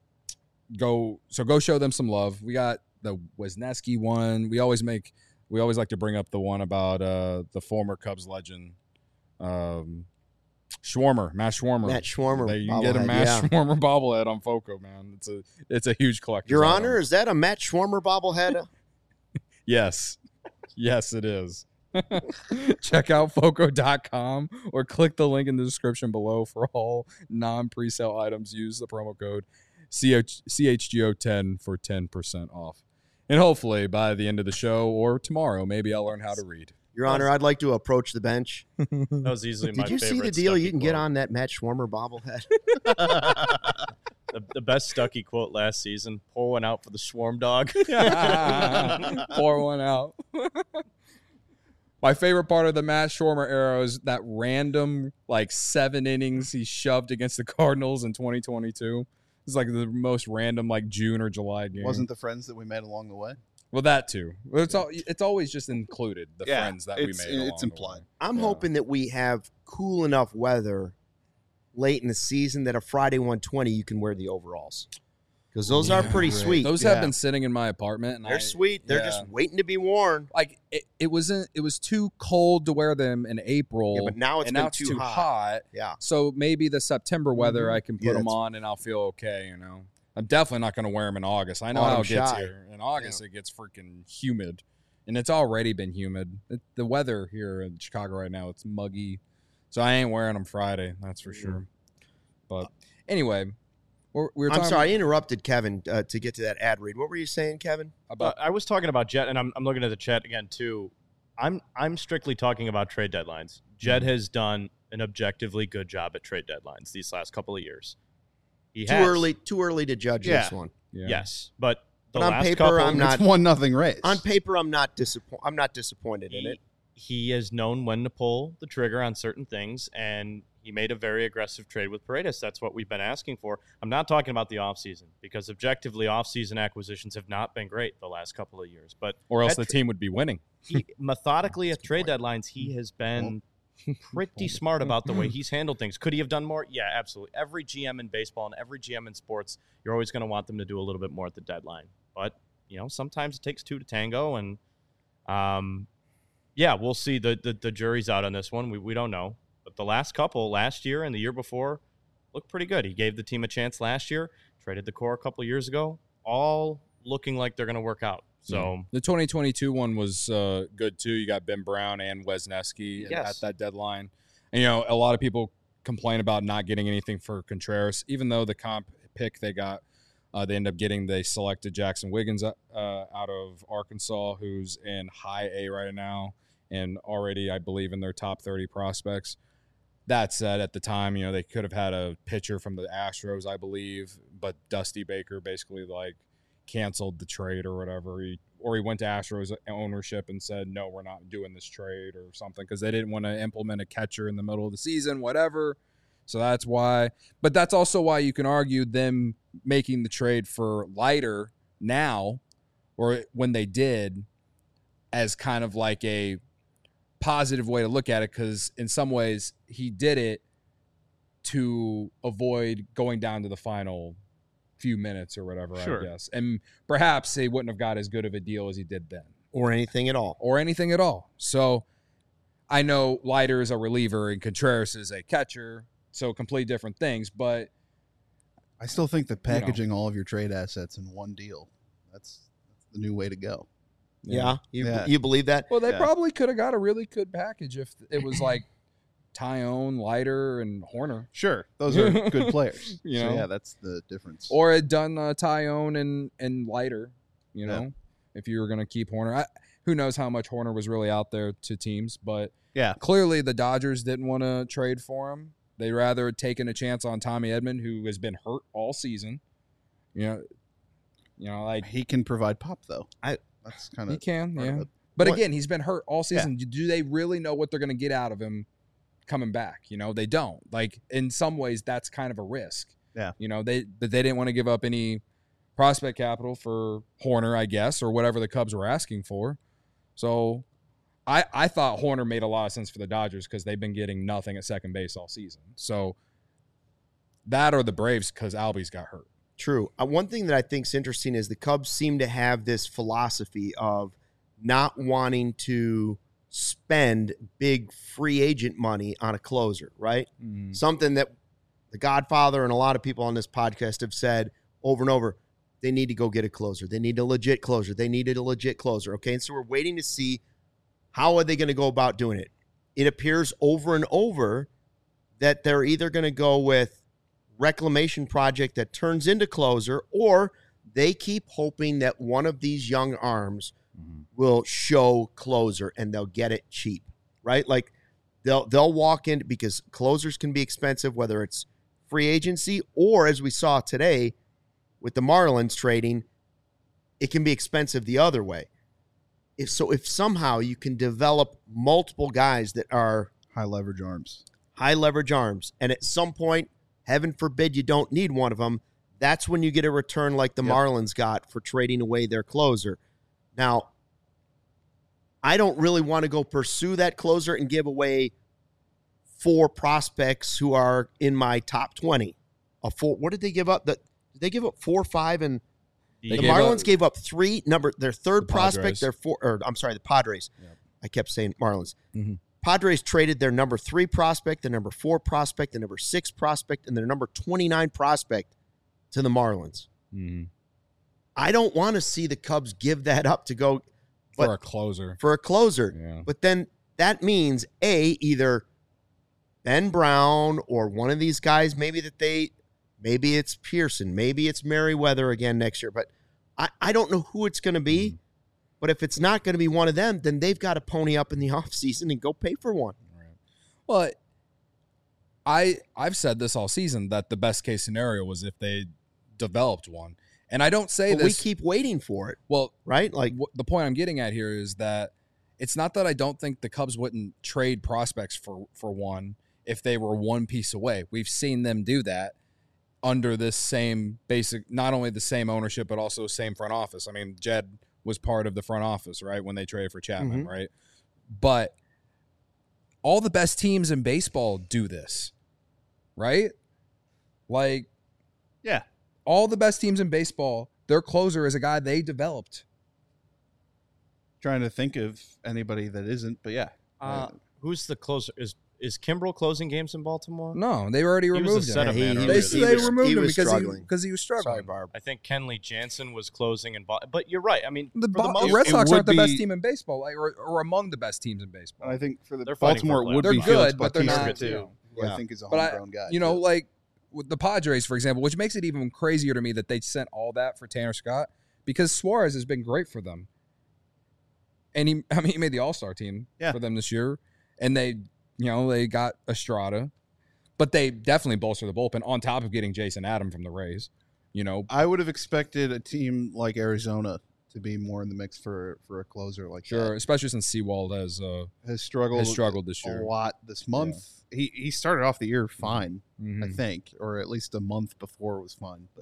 go so go show them some love. We got the Wisniewski one. We always make we always like to bring up the one about uh, the former Cubs legend, um, Schwarmer, Matt Schwarmer. Matt Schwarmer They- you can get a bobblehead, Matt yeah. Schwarmer bobblehead on FOCO, man. It's a it's a huge collection. Your Honor, is that a Matt Schwarmer bobblehead? Yes. Yes, it is. Check out foco dot com or click the link in the description below for all non-presale items. Use the promo code C H G O ten for ten percent off. And hopefully by the end of the show or tomorrow, maybe I'll learn how to read. Your Honor, I'd like to approach the bench. That was easily my Did you see the favorite deal? Stuckey You can get quote. on that Matt Schwarmer bobblehead. the, the best Stuckey quote last season. Pour one out for the Swarm Dog. Pour one out. My favorite part of the Matt Schwarmer era is that random, like, seven innings he shoved against the Cardinals in twenty twenty-two. It's like the most random, like, June or July game. Wasn't the friends that we met along the way? Well, that too. Well, It's all, it's always just included, the Yeah, friends that we it's- made. along it's the implied. way. I'm Yeah. hoping that we have cool enough weather late in the season that a Friday one twenty you can wear the overalls. Because those are Yeah, pretty right. sweet. Those Yeah. have been sitting in my apartment. And They're I, sweet. They're yeah. just waiting to be worn. Like, it, it wasn't, it was too cold to wear them in April. Yeah, but now it's and been now it's too, too hot. hot. Yeah. So maybe the September weather, Mhm. I can put Yeah, them that's- on and I'll feel okay, you know. I'm definitely not going to wear them in August. I know how Autumn it gets shy. here. In August, it gets freaking humid. And it's already been humid. It, the weather here in Chicago right now, it's muggy. So I ain't wearing them Friday, that's for sure. But anyway, we're, we were I'm talking sorry, I interrupted Kevin uh, to get to that ad read. What were you saying, Kevin? about Uh, I was talking about Jet, and I'm, I'm looking at the chat again too. I'm I'm strictly talking about trade deadlines. Jet Mm-hmm. has done an objectively good job at trade deadlines these last couple of years. He Too has. early, too early to judge Yeah. this one. yeah. Yes, but the But on last paper, couple, I'm not- It's one nothing race. On paper, I'm not disappointed. I'm not disappointed in he, it. he has known when to pull the trigger on certain things, and he made a very aggressive trade with Paredes. That's what we've been asking for. I'm not talking about the offseason, because objectively, offseason acquisitions have not been great the last couple of years. But Or else at the tra- team would be winning. he, methodically That's at a good trade point. deadlines, he has been pretty smart about the way he's handled things. Could he have done more? Yeah, absolutely. Every G M in baseball and every G M in sports, you're always going to want them to do a little bit more at the deadline. But, you know, sometimes it takes two to tango. And, um, yeah, we'll see. The, the, the jury's out on this one. We, we don't know. But the last couple, last year and the year before, looked pretty good. He gave the team a chance last year, traded the core a couple of years ago, all looking like they're going to work out. So, Yeah. The twenty twenty-two one was uh, good too. You got Ben Brown and Wesneski Yes. at that deadline. And, you know, a lot of people complain about not getting anything for Contreras, even though the comp pick they got, uh, they ended up getting, they selected Jackson Wiggins uh, out of Arkansas, who's in high A right now and already, I believe, in their top thirty prospects. That said, at the time, you know, they could have had a pitcher from the Astros, I believe, but Dusty Baker basically, like, canceled the trade or whatever. He, or he went to Astros ownership and said, no, we're not doing this trade or something because they didn't want to implement a catcher in the middle of the season, whatever. So that's why. But that's also why you can argue them making the trade for Leiter now, or when they did, as kind of like a positive way to look at it, because in some ways he did it to avoid going down to the final few minutes or whatever, Sure. I guess. And perhaps he wouldn't have got as good of a deal as he did then. Or anything at all. Or anything at all. So I know Leiter is a reliever and Contreras is a catcher, so complete different things, but I still think that packaging all of your trade assets in one deal, that's, that's the new way to go. Yeah, you Yeah. you believe that? Well, they Yeah. probably could have got a really good package if it was like Tyone, Leiter, and Horner. Sure, those are good players. You so know? yeah, that's the difference. Or had done uh, Tyone and, and Leiter, you Yeah. know, if you were going to keep Horner. I, who knows how much Horner was really out there to teams, but yeah, clearly the Dodgers didn't want to trade for him. They'd rather had taken a chance on Tommy Edman, who has been hurt all season. You know, you know, like he can provide pop though. I- that's kind he of can, part of yeah. it. But What- again, he's been hurt all season. Do they really know what they're going to get out of him coming back? You know, they don't. Like, in some ways, that's kind of a risk. Yeah. You know, they but they didn't want to give up any prospect capital for Horner, I guess, or whatever the Cubs were asking for. So I, I thought Horner made a lot of sense for the Dodgers because they've been getting nothing at second base all season. So that or the Braves because Albies got hurt. True. Uh, one thing that I think is interesting is the Cubs seem to have this philosophy of not wanting to spend big free agent money on a closer, right? Mm. Something that the Godfather and a lot of people on this podcast have said over and over. They need to go get a closer. They need a legit closer. They needed a legit closer. Okay. And so we're waiting to see how are they going to go about doing it. It appears over and over that they're either going to go with reclamation project that turns into closer, or they keep hoping that one of these young arms Mhm. will show closer and they'll get it cheap, right? Like they'll they'll walk in because closers can be expensive, whether it's free agency or as we saw today with the Marlins trading, it can be expensive the other way. If so, if somehow you can develop multiple guys that are High leverage arms. high leverage arms, and at some point, heaven forbid you don't need one of them, that's when you get a return like the Yep. Marlins got for trading away their closer. Now, I don't really want to go pursue that closer and give away four prospects who are in my top twenty. A four, what did they give up? The, did they give up four, five, and They the gave Marlins up- gave up three. Number their third The prospect, Padres. their four, or I'm sorry, the Padres. Yep. I kept saying Marlins. Mhm. Padres traded their number three prospect, their number four prospect, their number six prospect, and their number twenty-nine prospect to the Marlins. Mhm. I don't want to see the Cubs give that up to go for but- a closer. for a closer. Yeah. But then that means, A, either Ben Brown or one of these guys, maybe that they, maybe it's Pearson, maybe it's Merriweather again next year, but I, I don't know who it's going to be. Mm-hmm. But if it's not going to be one of them, then they've got to pony up in the offseason and go pay for one. Right. Well, I, I've said this all season that the best case scenario was if they developed one. And I don't say but this. We keep waiting for it. Well, right? Like w- the point I'm getting at here is that it's not that I don't think the Cubs wouldn't trade prospects for, for one if they were one piece away. We've seen them do that under this same basic, not only the same ownership, but also same front office. I mean, Jed was part of the front office, right, when they traded for Chapman, mm-hmm. right? But all the best teams in baseball do this, right? Like, yeah, all the best teams in baseball, their closer is a guy they developed. Trying to think of anybody that isn't, but yeah. Uh, who's the closer? Is Is Kimbrel closing games in Baltimore? No, they already he removed was a him. He, they he they was, removed he him was because struggling. he, because he was struggling. Sorry, Barb. I think Kenley Jansen was closing in Baltimore. But you're right. I mean, the, for Bo- the most, the Red Sox would aren't the best be- team in baseball, like, or, or among the best teams in baseball. I think for the They're fighting Baltimore, for it would They're be good, Felix but they're Bautista, not, too, you know. who Yeah. I think is a But I, homegrown guy. you know, too. like with the Padres, for example, which makes it even crazier to me that they sent all that for Tanner Scott because Suarez has been great for them. And he, I mean, he made the All-Star team Yeah. for them this year. And they, you know, they got Estrada. But they definitely bolstered the bullpen on top of getting Jason Adam from the Rays. You know, I would have expected a team like Arizona to be more in the mix for, for a closer like sure, that. especially since Sewald has uh, Has struggled, has struggled this a year. lot this month. He he started off the year fine, Mhm. I think, or at least a month before was fine. But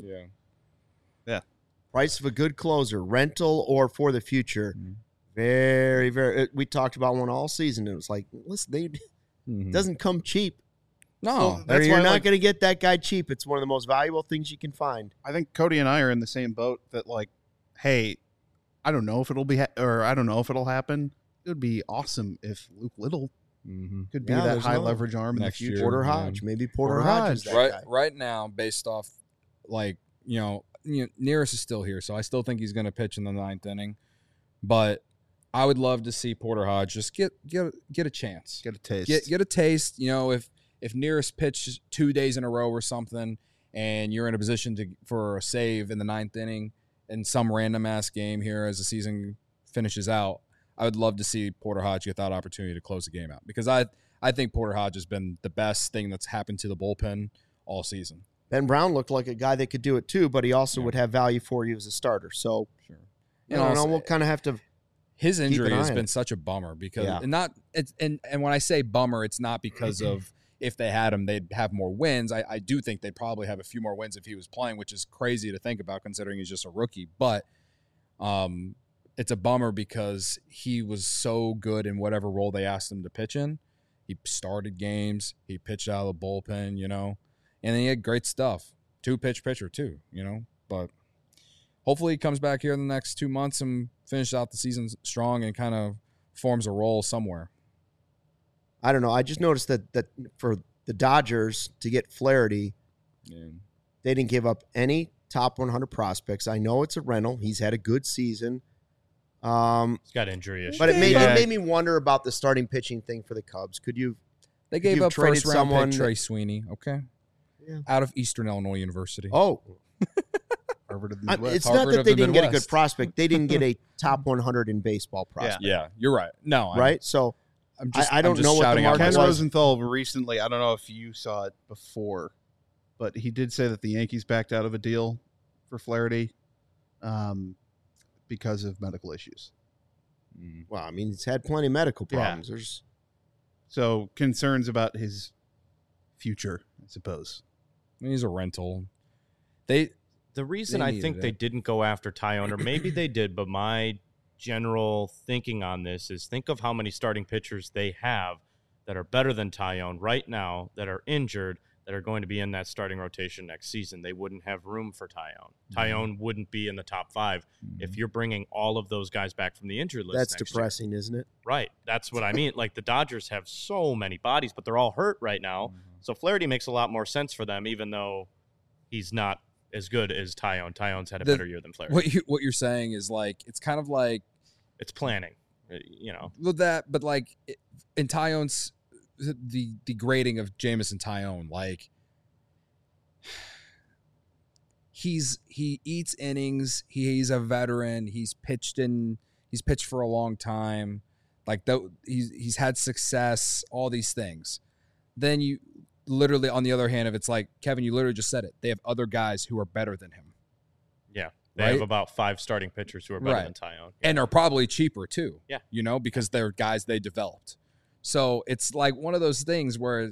Yeah. Price of a good closer, rental or for the future. Mhm. Very, very. it- We talked about one all season. It was like, listen, they, it Mhm. doesn't come cheap. No. Well, Or That's you're why, not like- going to get that guy cheap. It's one of the most valuable things you can find. I think Cody and I are in the same boat that, like, hey, I don't know if it'll be, ha- or I don't know if it'll happen. It would be awesome if Luke Little Mhm. could be Yeah, that there's high another- leverage arm Next in the year. future. Porter yeah. Hodge. Maybe Porter, Porter Hodge, is Hodge. that right guy. right now, based off, like, you know, you know, Nearest is still here, so I still think he's going to pitch in the ninth inning. But I would love to see Porter Hodge just get get get a chance, Get a taste. get get a taste. You know, if if Nearest pitches two days in a row or something, and you're in a position to for a save in the ninth inning in some random ass game here as the season finishes out, I would love to see Porter Hodge get that opportunity to close the game out because I I think Porter Hodge has been the best thing that's happened to the bullpen all season. Ben Brown looked like a guy that could do it too, but he also Yeah. would have value for you as a starter. So, Sure. you know, also, we'll kind of have to. his injury an has eye on been it. such a bummer because Yeah. and not it's and and when I say bummer, it's not because of if they had him, they'd have more wins. I, I do think they'd probably have a few more wins if he was playing, which is crazy to think about considering he's just a rookie. But um, it's a bummer because he was so good in whatever role they asked him to pitch in. He started games, he pitched out of the bullpen, you know, and then he had great stuff. Two pitch pitcher too, you know. But hopefully he comes back here in the next two months and finishes out the season strong and kind of forms a role somewhere. I don't know. I just noticed that that for the Dodgers to get Flaherty, Yeah. they didn't give up any top one hundred prospects. I know it's a rental. He's had a good season. Um, He's got injury issues. but it made, Yeah. it made me wonder about the starting pitching thing for the Cubs. Could you They gave you've up traded first round someone pick that- Trey Sweeney, okay? Yeah. Out of Eastern Illinois University. Oh, Harvard of the I- Midwest. it's Harvard not that of they the didn't get a good Midwest. prospect. They didn't get a top one hundred in baseball prospect, Yeah, you're right. No, I'm, right? So I'm just, I- I don't I'm just know what the shouting out market Ken was. my- Rosenthal recently, I don't know if you saw it before, but he did say that the Yankees backed out of a deal for Flaherty um, because of medical issues. Mm. well, I mean, he's had plenty of medical Yeah. problems. There's So concerns about his future, I suppose. I mean, he's a rental. They The reason They I needed think they it. didn't go after Tyone, or maybe they did, but my general thinking on this is think of how many starting pitchers they have that are better than Tyone right now, that are injured, that are going to be in that starting rotation next season. They wouldn't have room for Tyone. Mm-hmm. Tyone wouldn't be in the top five if you're bringing all of those guys back from the injured list. that's next year. depressing, isn't it? Right. That's what I mean. Like the Dodgers have so many bodies, but they're all hurt right now. So Flaherty makes a lot more sense for them, even though he's not as good as Tyone. Tyone's had a The- better year than Flaherty. what you what you're saying is like it's kind of like It's planning, uh, you know. with that, but like it- in Tyone's the the grading of Jameson Taillon. Like he's he eats innings. He, he's a veteran. He's pitched in. He's pitched for a long time. Like the, he's he's had success. All these things. Then you literally, on the other hand, if it's like Kevin, you literally just said it. They have other guys who are better than him. Yeah, they right? have about five starting pitchers who are better right. than Taillon, yeah. and are probably cheaper too. Yeah, you know, because they're guys they developed. So it's like one of those things where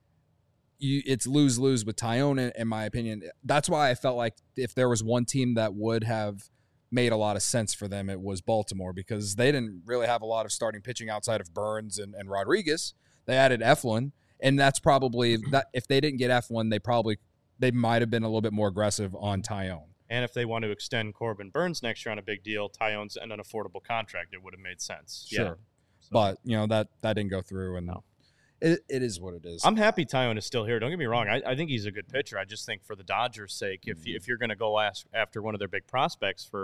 you it's lose lose with Taillon, in, in my opinion. That's why I felt like if there was one team that would have made a lot of sense for them, it was Baltimore, because they didn't really have a lot of starting pitching outside of Burns and, and Rodriguez. They added Eflin, and that's probably that. If they didn't get Eflin, they probably they might have been a little bit more aggressive on Taillon. And if they want to extend Corbin Burns next year on a big deal, Taillon's and an affordable contract, it would have made sense. Sure. Yeah. So. But, you know, that, that didn't go through, and no. it, it is what it is. I'm happy Taillon is still here. Don't get me wrong. I, I think he's a good pitcher. I just think for the Dodgers' sake, if, you, if you're going to go ask after one of their big prospects for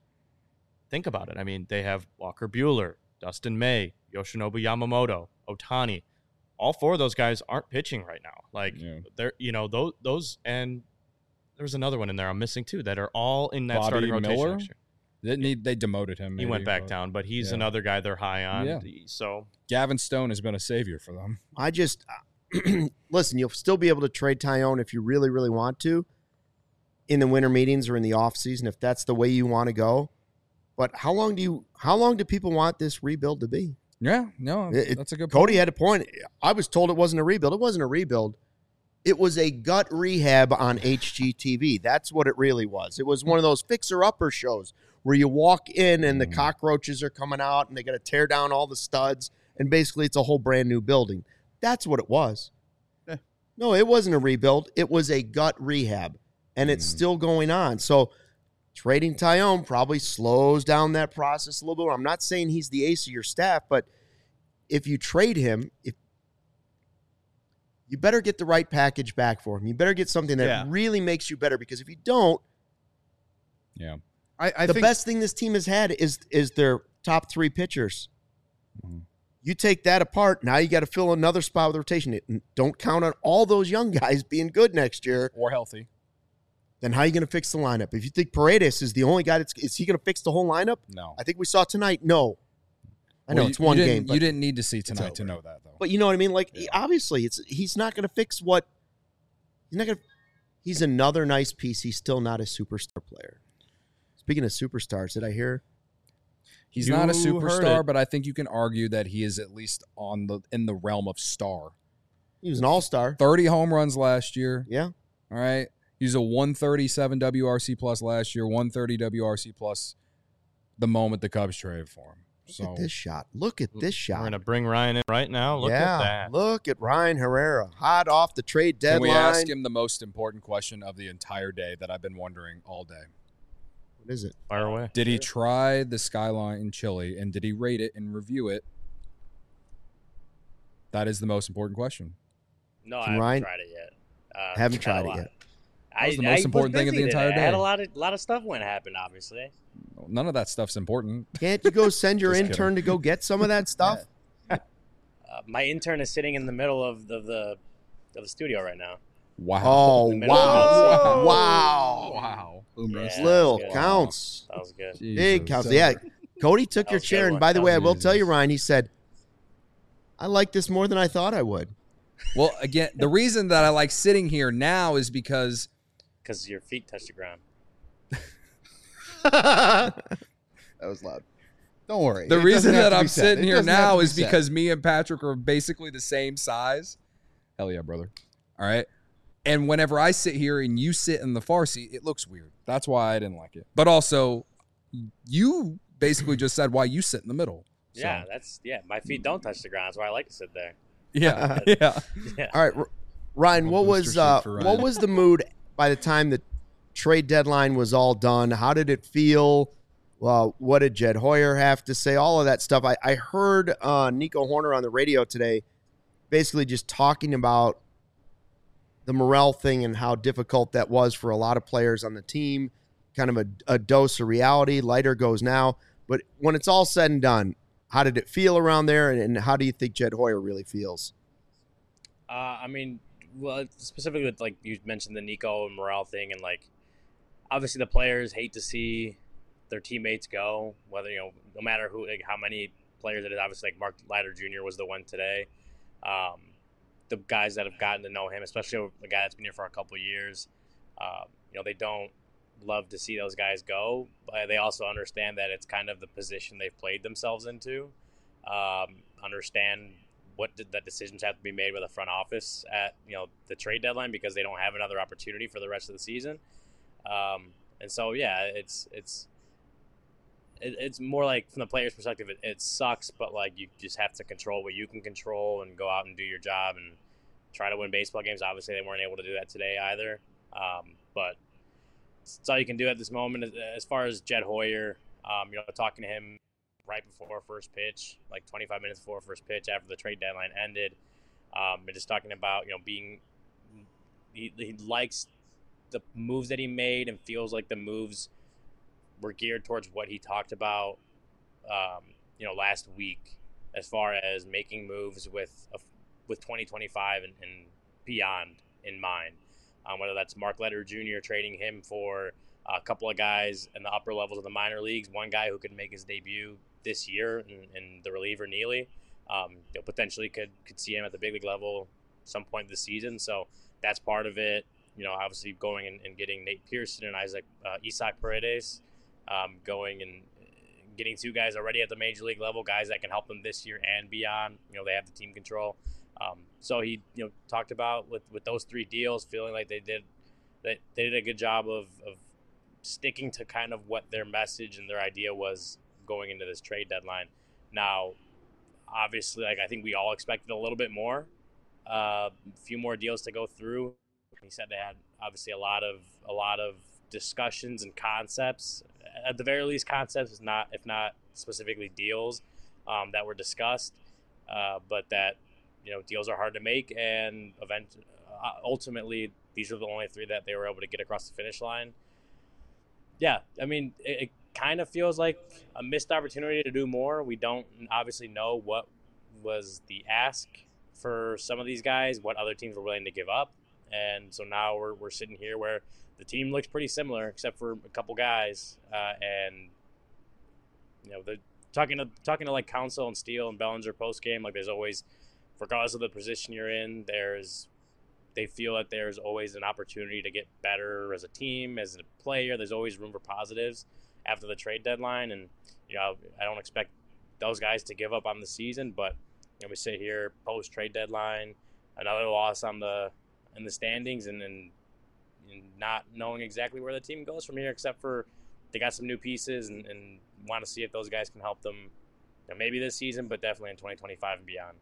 – think about it. I mean, they have Walker Buehler, Dustin May, Yoshinobu Yamamoto, Ohtani. All four of those guys aren't pitching right now. Like, yeah. they're – you know, those, those – and there's another one in there I'm missing too that are all in that Bobby starting rotation Miller? next year. Didn't he, they demoted him. He maybe, went back but, down, but he's yeah. another guy they're high on. Yeah. So Gavin Stone has been a savior for them. I just listen. You'll still be able to trade Taillon if you really, really want to, in the winter meetings or in the off season, if that's the way you want to go. But how long do you? How long do people want this rebuild to be? Yeah, no, it, that's a good. Cody point. had a point. I was told it wasn't a rebuild. It wasn't a rebuild. It was a gut rehab on H G T V. That's what it really was. It was one of those fixer-upper shows where you walk in and the cockroaches are coming out and they got to tear down all the studs, and basically it's a whole brand new building. That's what it was. Yeah. No, it wasn't a rebuild. It was a gut rehab, and it's mm. still going on. So trading Taillon probably slows down that process a little bit. I'm not saying he's the ace of your staff, but if you trade him, if you better get the right package back for him. You better get something that yeah. really makes you better, because if you don't, yeah, I, I the think, best thing this team has had is is their top three pitchers. Mm-hmm. You take that apart, now you got to fill another spot with rotation. Don't count on all those young guys being good next year or healthy. Then how are you going to fix the lineup? If you think Paredes is the only guy that's is he going to fix the whole lineup? No, I think we saw tonight. No, I know well, it's one you game. But you didn't need to see tonight to know that, though. But you know what I mean? Like, yeah. obviously, it's he's not going to fix what he's not going to. He's another nice piece. He's still not a superstar player. Speaking of superstars, did I hear? He's you not a superstar, but I think you can argue that he is at least on the in the realm of star. He was an all-star. thirty home runs last year. Yeah. All right. He was a one thirty-seven W R C plus last year, one thirty W R C plus the moment the Cubs traded for him. Look so at this shot. Look at this shot. We're going to bring Ryan in right now. Look yeah, at that. Look at Ryan Herrera. Hot off the trade deadline. Can we ask him the most important question of the entire day that I've been wondering all day? What is it? Fire away. Did he try the Skyline in Chile, and did he rate it and review it? That is the most important question. No, Can I haven't Ryan, tried it yet. Uh, haven't tried it yet. That was the most I, important I thing of the entire today. day. I had a lot of lot of stuff when it happened, obviously. None of that stuff's important. Can't you go send your Just intern kidding. to go get some of that stuff? uh, my intern is sitting in the middle of the, the of the studio right now. Wow. Oh, wow. Wow. Wow. Yeah, Little that counts. That was good. Jesus. Big counts. Yeah. Cody took That your was a chair. good And one. by the way, I will Jesus. tell you, Ryan, he said, I like this more than I thought I would. Well, again, the reason that I like sitting here now is because Because your feet touch the ground. That was loud. Don't worry. the It reason doesn't have that to be I'm said. sitting It here doesn't have now to be is said. because me and Patrick are basically the same size. Hell yeah, brother. All right. And whenever I sit here and you sit in the far seat, it looks weird. That's why I didn't like it. But also, you basically just said why you sit in the middle. So, Yeah, that's yeah. My feet don't touch the ground. That's why I like to sit there. Yeah. Yeah. Yeah. All right, R- Ryan, what Booster was seat uh, for what Ryan. was the mood by the time the trade deadline was all done? How did it feel? Well, what did Jed Hoyer have to say? All of that stuff. I, I heard uh, Nico Horner on the radio today basically just talking about the Morel thing and how difficult that was for a lot of players on the team, kind of a, a dose of reality. Lighter goes now. But when it's all said and done, how did it feel around there, and, and how do you think Jed Hoyer really feels? Uh, I mean, well, specifically with like you mentioned the Nico and Morel thing, and like obviously the players hate to see their teammates go. Whether you know, no matter who, like how many players it is. Obviously, like Mark Leiter Junior was the one today. Um, the guys that have gotten to know him, especially the guy that's been here for a couple of years, uh, you know, they don't love to see those guys go, but they also understand that it's kind of the position they've played themselves into. Um, understand what the decisions have to be made with the front office at you know the trade deadline because they don't have another opportunity for the rest of the season. Um, and so yeah, it's it's it, it's more like from the player's perspective, it, it sucks, but like you just have to control what you can control and go out and do your job and try to win baseball games. Obviously, they weren't able to do that today either, um, but it's all you can do at this moment. As far as Jed Hoyer, um, you know, talking to him right before first pitch, like twenty-five minutes before first pitch after the trade deadline ended. Um, and just talking about, you know, being, he, he likes the moves that he made and feels like the moves were geared towards what he talked about, um, you know, last week as far as making moves with, a, with twenty twenty-five and, and beyond in mind. Um, whether that's Mark Leiter Junior trading him for a couple of guys in the upper levels of the minor leagues, one guy who could make his debut this year, and, and the reliever Neely, um, you know, potentially could could see him at the big league level some point this season. So that's part of it. You know, obviously going and, and getting Nate Pearson and Isaac uh, Isaac Paredes, um, going and getting two guys already at the major league level, guys that can help them this year and beyond. You know, they have the team control. Um, so he, you know, talked about with, with those three deals, feeling like they did that they did a good job of, of sticking to kind of what their message and their idea was going into this trade deadline. Now, obviously, like I think we all expected a little bit more, uh, a few more deals to go through. He said they had obviously a lot of a lot of discussions and concepts. At the very least, concepts, is not if not specifically deals um, that were discussed, uh, but that you know deals are hard to make, and event uh, ultimately these are the only three that they were able to get across the finish line. Yeah, I mean, it, it kind of feels like a missed opportunity to do more. We don't obviously know what was the ask for some of these guys, what other teams were willing to give up. And so now we're we're sitting here where the team looks pretty similar, except for a couple guys. Uh, and, you know, the talking to talking to like Counsell and Steele and Bellinger post game, like there's always, regardless of the position you're in, there's they feel that there's always an opportunity to get better as a team, as a player. There's always room for positives after the trade deadline. And, you know, I don't expect those guys to give up on the season, but you know, we sit here post trade deadline, another loss on the in the standings, and then and not knowing exactly where the team goes from here, except for they got some new pieces and, and want to see if those guys can help them, you know, maybe this season, but definitely in twenty twenty-five and beyond.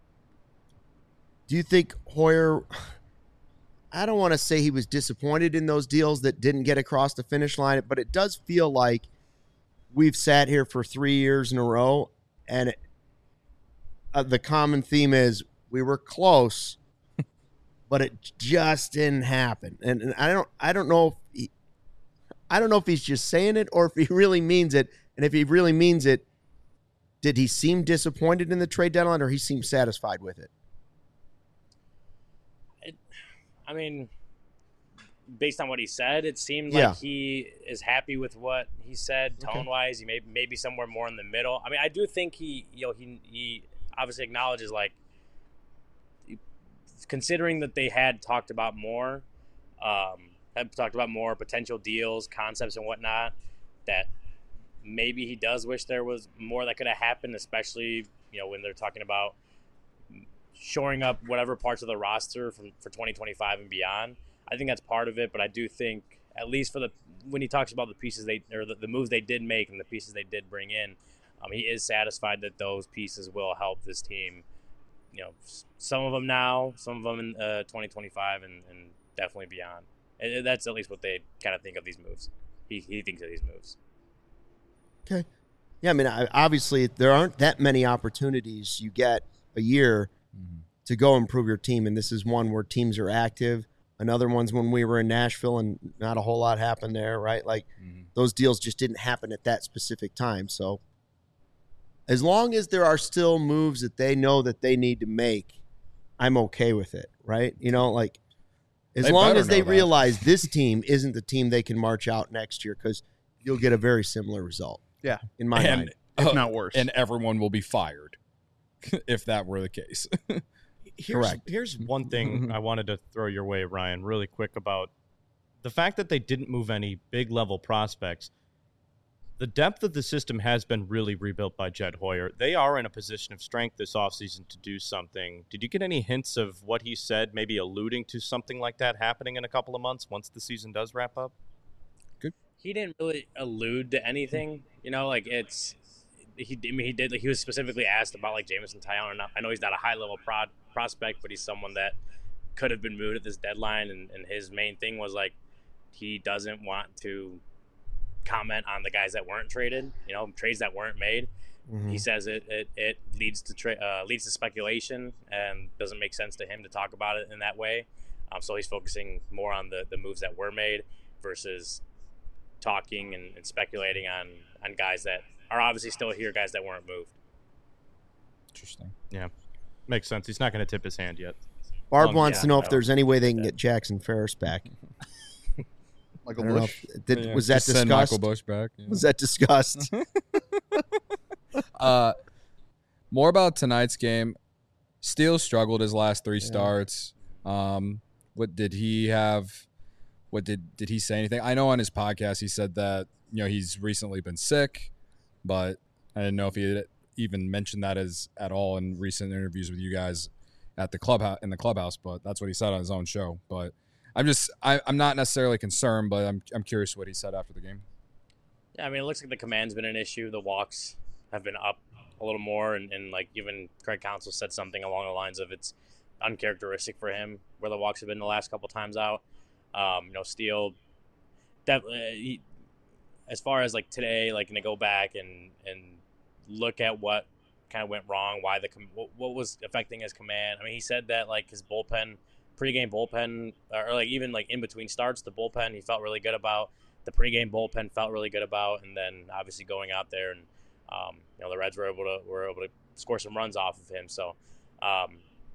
Do you think Hoyer, I don't want to say he was disappointed in those deals that didn't get across the finish line, but it does feel like we've sat here for three years in a row, and it, uh, the common theme is we were close, but it just didn't happen. And, and I don't, I don't know if he, I don't know if he's just saying it or if he really means it. And if he really means it, did he seem disappointed in the trade deadline, or he seemed satisfied with it? it I mean, based on what he said, it seemed Yeah. like he is happy with what he said tone Okay. wise. He may maybe somewhere more in the middle. I mean, I do think he, you know, he he obviously acknowledges, like, considering that they had talked about more, um, had talked about more potential deals, concepts, and whatnot, that maybe he does wish there was more that could have happened, especially, you know, when they're talking about shoring up whatever parts of the roster from for twenty twenty-five and beyond. I think that's part of it, but I do think, at least for the when he talks about the pieces they or the, the moves they did make and the pieces they did bring in, um, he is satisfied that those pieces will help this team. You know, some of them now, some of them in uh, twenty twenty-five, and, and definitely beyond. And that's at least what they kind of think of these moves. He he thinks of these moves. Okay. Yeah, I mean, I, obviously, there aren't that many opportunities you get a year Mm-hmm. to go improve your team, and this is one where teams are active. Another one's when we were in Nashville and not a whole lot happened there, right? Like, Mm-hmm. those deals just didn't happen at that specific time. So as long as there are still moves that they know that they need to make, I'm okay with it, right? You know, like as They long better as they know that. realize this team isn't the team they can march out next year, because you'll get a very similar result. Yeah. in my and, mind. if uh, not worse. And everyone will be fired if that were the case. Here's, Correct. Here's one thing I wanted to throw your way, Ryan, really quick about the fact that they didn't move any big level prospects. The depth of the system has been really rebuilt by Jed Hoyer. They are in a position of strength this offseason to do something. Did you get any hints of what he said, maybe alluding to something like that happening in a couple of months once the season does wrap up? He didn't really allude to anything, you know, like it's he. I mean, he did. Like, he was specifically asked about like Jameson Taillon. I know he's not a high level prod prospect, but he's someone that could have been moved at this deadline. And, and his main thing was like he doesn't want to comment on the guys that weren't traded. You know, trades that weren't made. Mhm. He says it it, it leads to tra- uh, leads to speculation and doesn't make sense to him to talk about it in that way. Um, so he's focusing more on the the moves that were made versus talking and, and speculating on on guys that are obviously still here, guys that weren't moved. Interesting. Makes sense. He's not going to tip his hand yet. Barb Um, wants yeah, to know no. if there's any way they can get Jackson Ferris back. Michael I don't know Bush. if- did, Yeah, was that just send Michael discussed? Bush back. yeah. Was that discussed? Uh, more about tonight's game. Steele struggled his last three Yeah. starts. Um, what did he have? What did did he say anything? I know on his podcast he said that you know he's recently been sick, but I didn't know if he had even mentioned that as at all in recent interviews with you guys at the clubhouse in the clubhouse. But that's what he said on his own show. But I'm just I, I'm not necessarily concerned, but I'm I'm curious what he said after the game. Yeah, I mean, it looks like the command's been an issue. The walks have been up a little more, and, and like even Craig Counsell said something along the lines of it's uncharacteristic for him where the walks have been the last couple times out. Um, you know, Steele, that uh, he, as far as like today, like, gonna go back and and look at what kind of went wrong, why the com- what, what was affecting his command. I mean, he said that like his bullpen, pregame bullpen, or like even like in between starts, the bullpen he felt really good about. The pregame bullpen felt really good about, and then obviously going out there and um, you know the Reds were able to were able to score some runs off of him. So um,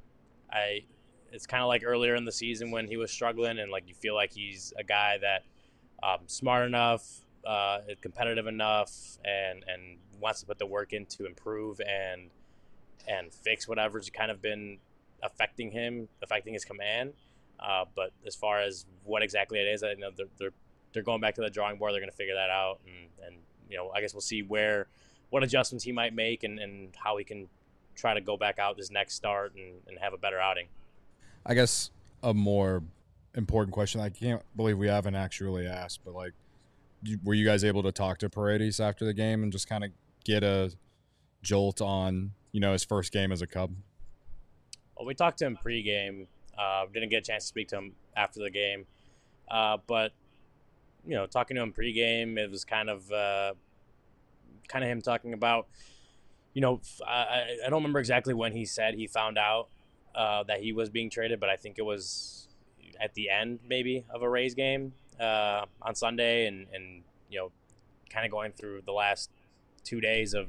I. It's kind of like earlier in the season when he was struggling, and like you feel like he's a guy that um, smart enough, uh, competitive enough, and and wants to put the work in to improve and and fix whatever's kind of been affecting him, affecting his command. Uh, but as far as what exactly it is, I know they're they're, they're going back to the drawing board. They're going to figure that out, and, and you know I guess we'll see where what adjustments he might make and, and how he can try to go back out this next start and, and have a better outing. I guess a more important question I can't believe we haven't actually asked, but like, you- were you guys able to talk to Paredes after the game and just kind of get a jolt on, you know, his first game as a Cub? Well, we talked to him pregame. Uh, didn't get a chance to speak to him after the game, uh, but you know, talking to him pregame, it was kind of uh, kind of him talking about, you know, I, I don't remember exactly when he said he found out uh, that he was being traded, but I think it was at the end maybe of a Rays game uh, on Sunday, and, and you know, kind of going through the last two days of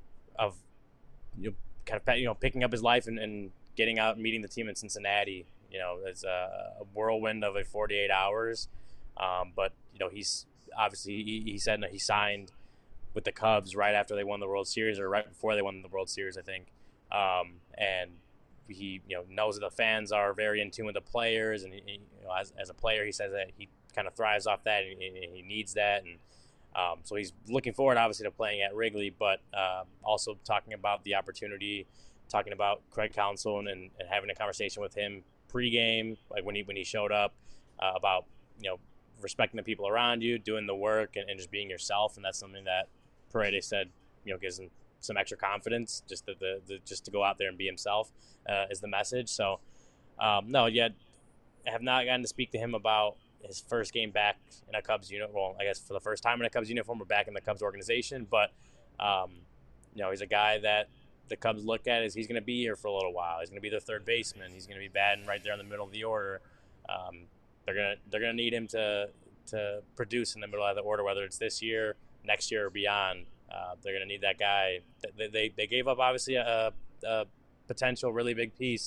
of you know, kind of you know picking up his life and, and getting out and meeting the team in Cincinnati. You know, it's a, a whirlwind of a forty-eight hours, um, but you know he's obviously he, he said that he signed with the Cubs right after they won the World Series, or right before they won the World Series, I think. Um, and he, you know, knows that the fans are very in tune with the players, and he, you know, as, as a player, he says that he kind of thrives off that, and he, he needs that, and um, so he's looking forward, obviously, to playing at Wrigley, but uh, also talking about the opportunity, talking about Craig Counsell and, and having a conversation with him pregame, like when he when he showed up, uh, about you know respecting the people around you, doing the work, and, and just being yourself, and that's something that Paredes said, you know, gives him some extra confidence, just the, the, the just to go out there and be himself uh, is the message. So, um, no, yet I have not gotten to speak to him about his first game back in a Cubs uniform. Well, I guess for the first time in a Cubs uniform or back in the Cubs organization. But, um, you know, he's a guy that the Cubs look at as he's going to be here for a little while. He's going to be their third baseman. He's going to be batting right there in the middle of the order. Um, they're gonna they're gonna need him to to produce in the middle of the order, whether it's this year, next year, or beyond. Uh, they're going to need that guy. They, they, they gave up, obviously, a, a potential really big piece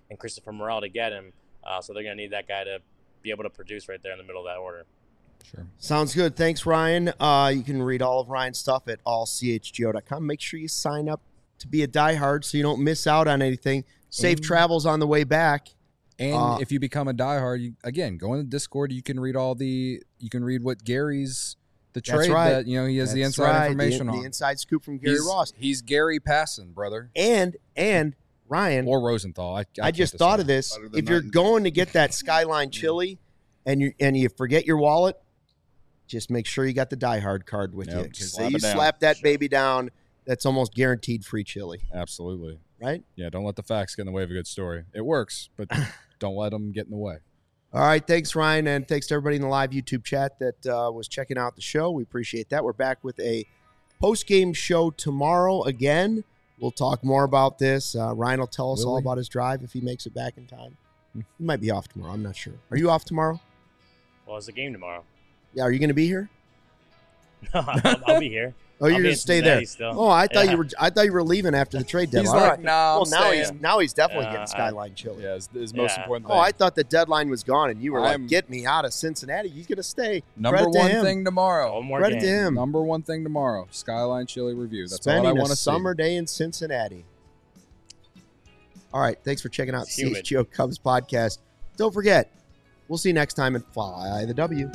and Christopher Morel to get him. Uh, so they're going to need that guy to be able to produce right there in the middle of that order. Sure. Sounds good. Thanks, Ryan. Uh, you can read all of Ryan's stuff at all c h g o dot com. Make sure you sign up to be a diehard so you don't miss out on anything. Safe And- travels on the way back. And Uh, if you become a diehard, you, again, go in the Discord. You can read all the. You can read what Gary's the That's trade right. that you know he has the That's inside right. information the, on. The inside scoop from Gary he's, Ross. He's Gary Passon, brother, And, and Ryan, or Rosenthal. I, I, I can't just decide. thought of this. Better than If you're nothing. going to get that Skyline chili and you and you forget your wallet, just make sure you got the diehard card with Yep, you. Because slap you it down. slap that Sure. baby down, that's almost guaranteed free chili, Absolutely. right? Yeah, don't let the facts get in the way of a good story. It works, but don't let them get in the way. All right, thanks, Ryan, and thanks to everybody in the live YouTube chat that uh, was checking out the show. We appreciate that. We're back with a post-game show tomorrow again. We'll talk more about this. Uh, Ryan will tell us Will all we? about his drive if he makes it back in time. He might be off tomorrow. I'm not sure. Are you off tomorrow? Well, it's a game tomorrow. Yeah, are you going to be here? I'll, I'll be here. Oh, you're I'll be going in to stay there. Cincinnati still. Oh, I thought Yeah. you were. I thought you were leaving after the trade deadline. He's All like, right. nah, Well, I'm now staying. he's now he's definitely Uh, getting I- Skyline chili. Yeah, it's his most Yeah. important thing. Oh, I thought the deadline was gone, and you were I'm- like, "Get me out of Cincinnati." He's going to stay. Number Credit to one him. thing tomorrow. One more Credit game. to him. Number one thing tomorrow. Skyline Chili Review. That's Spending all I a want to summer day in Cincinnati. All right, thanks for checking out It's the humid. C H G O Cubs podcast. Don't forget, we'll see you next time and fly the W.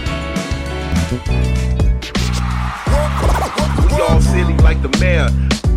We all silly like the mayor.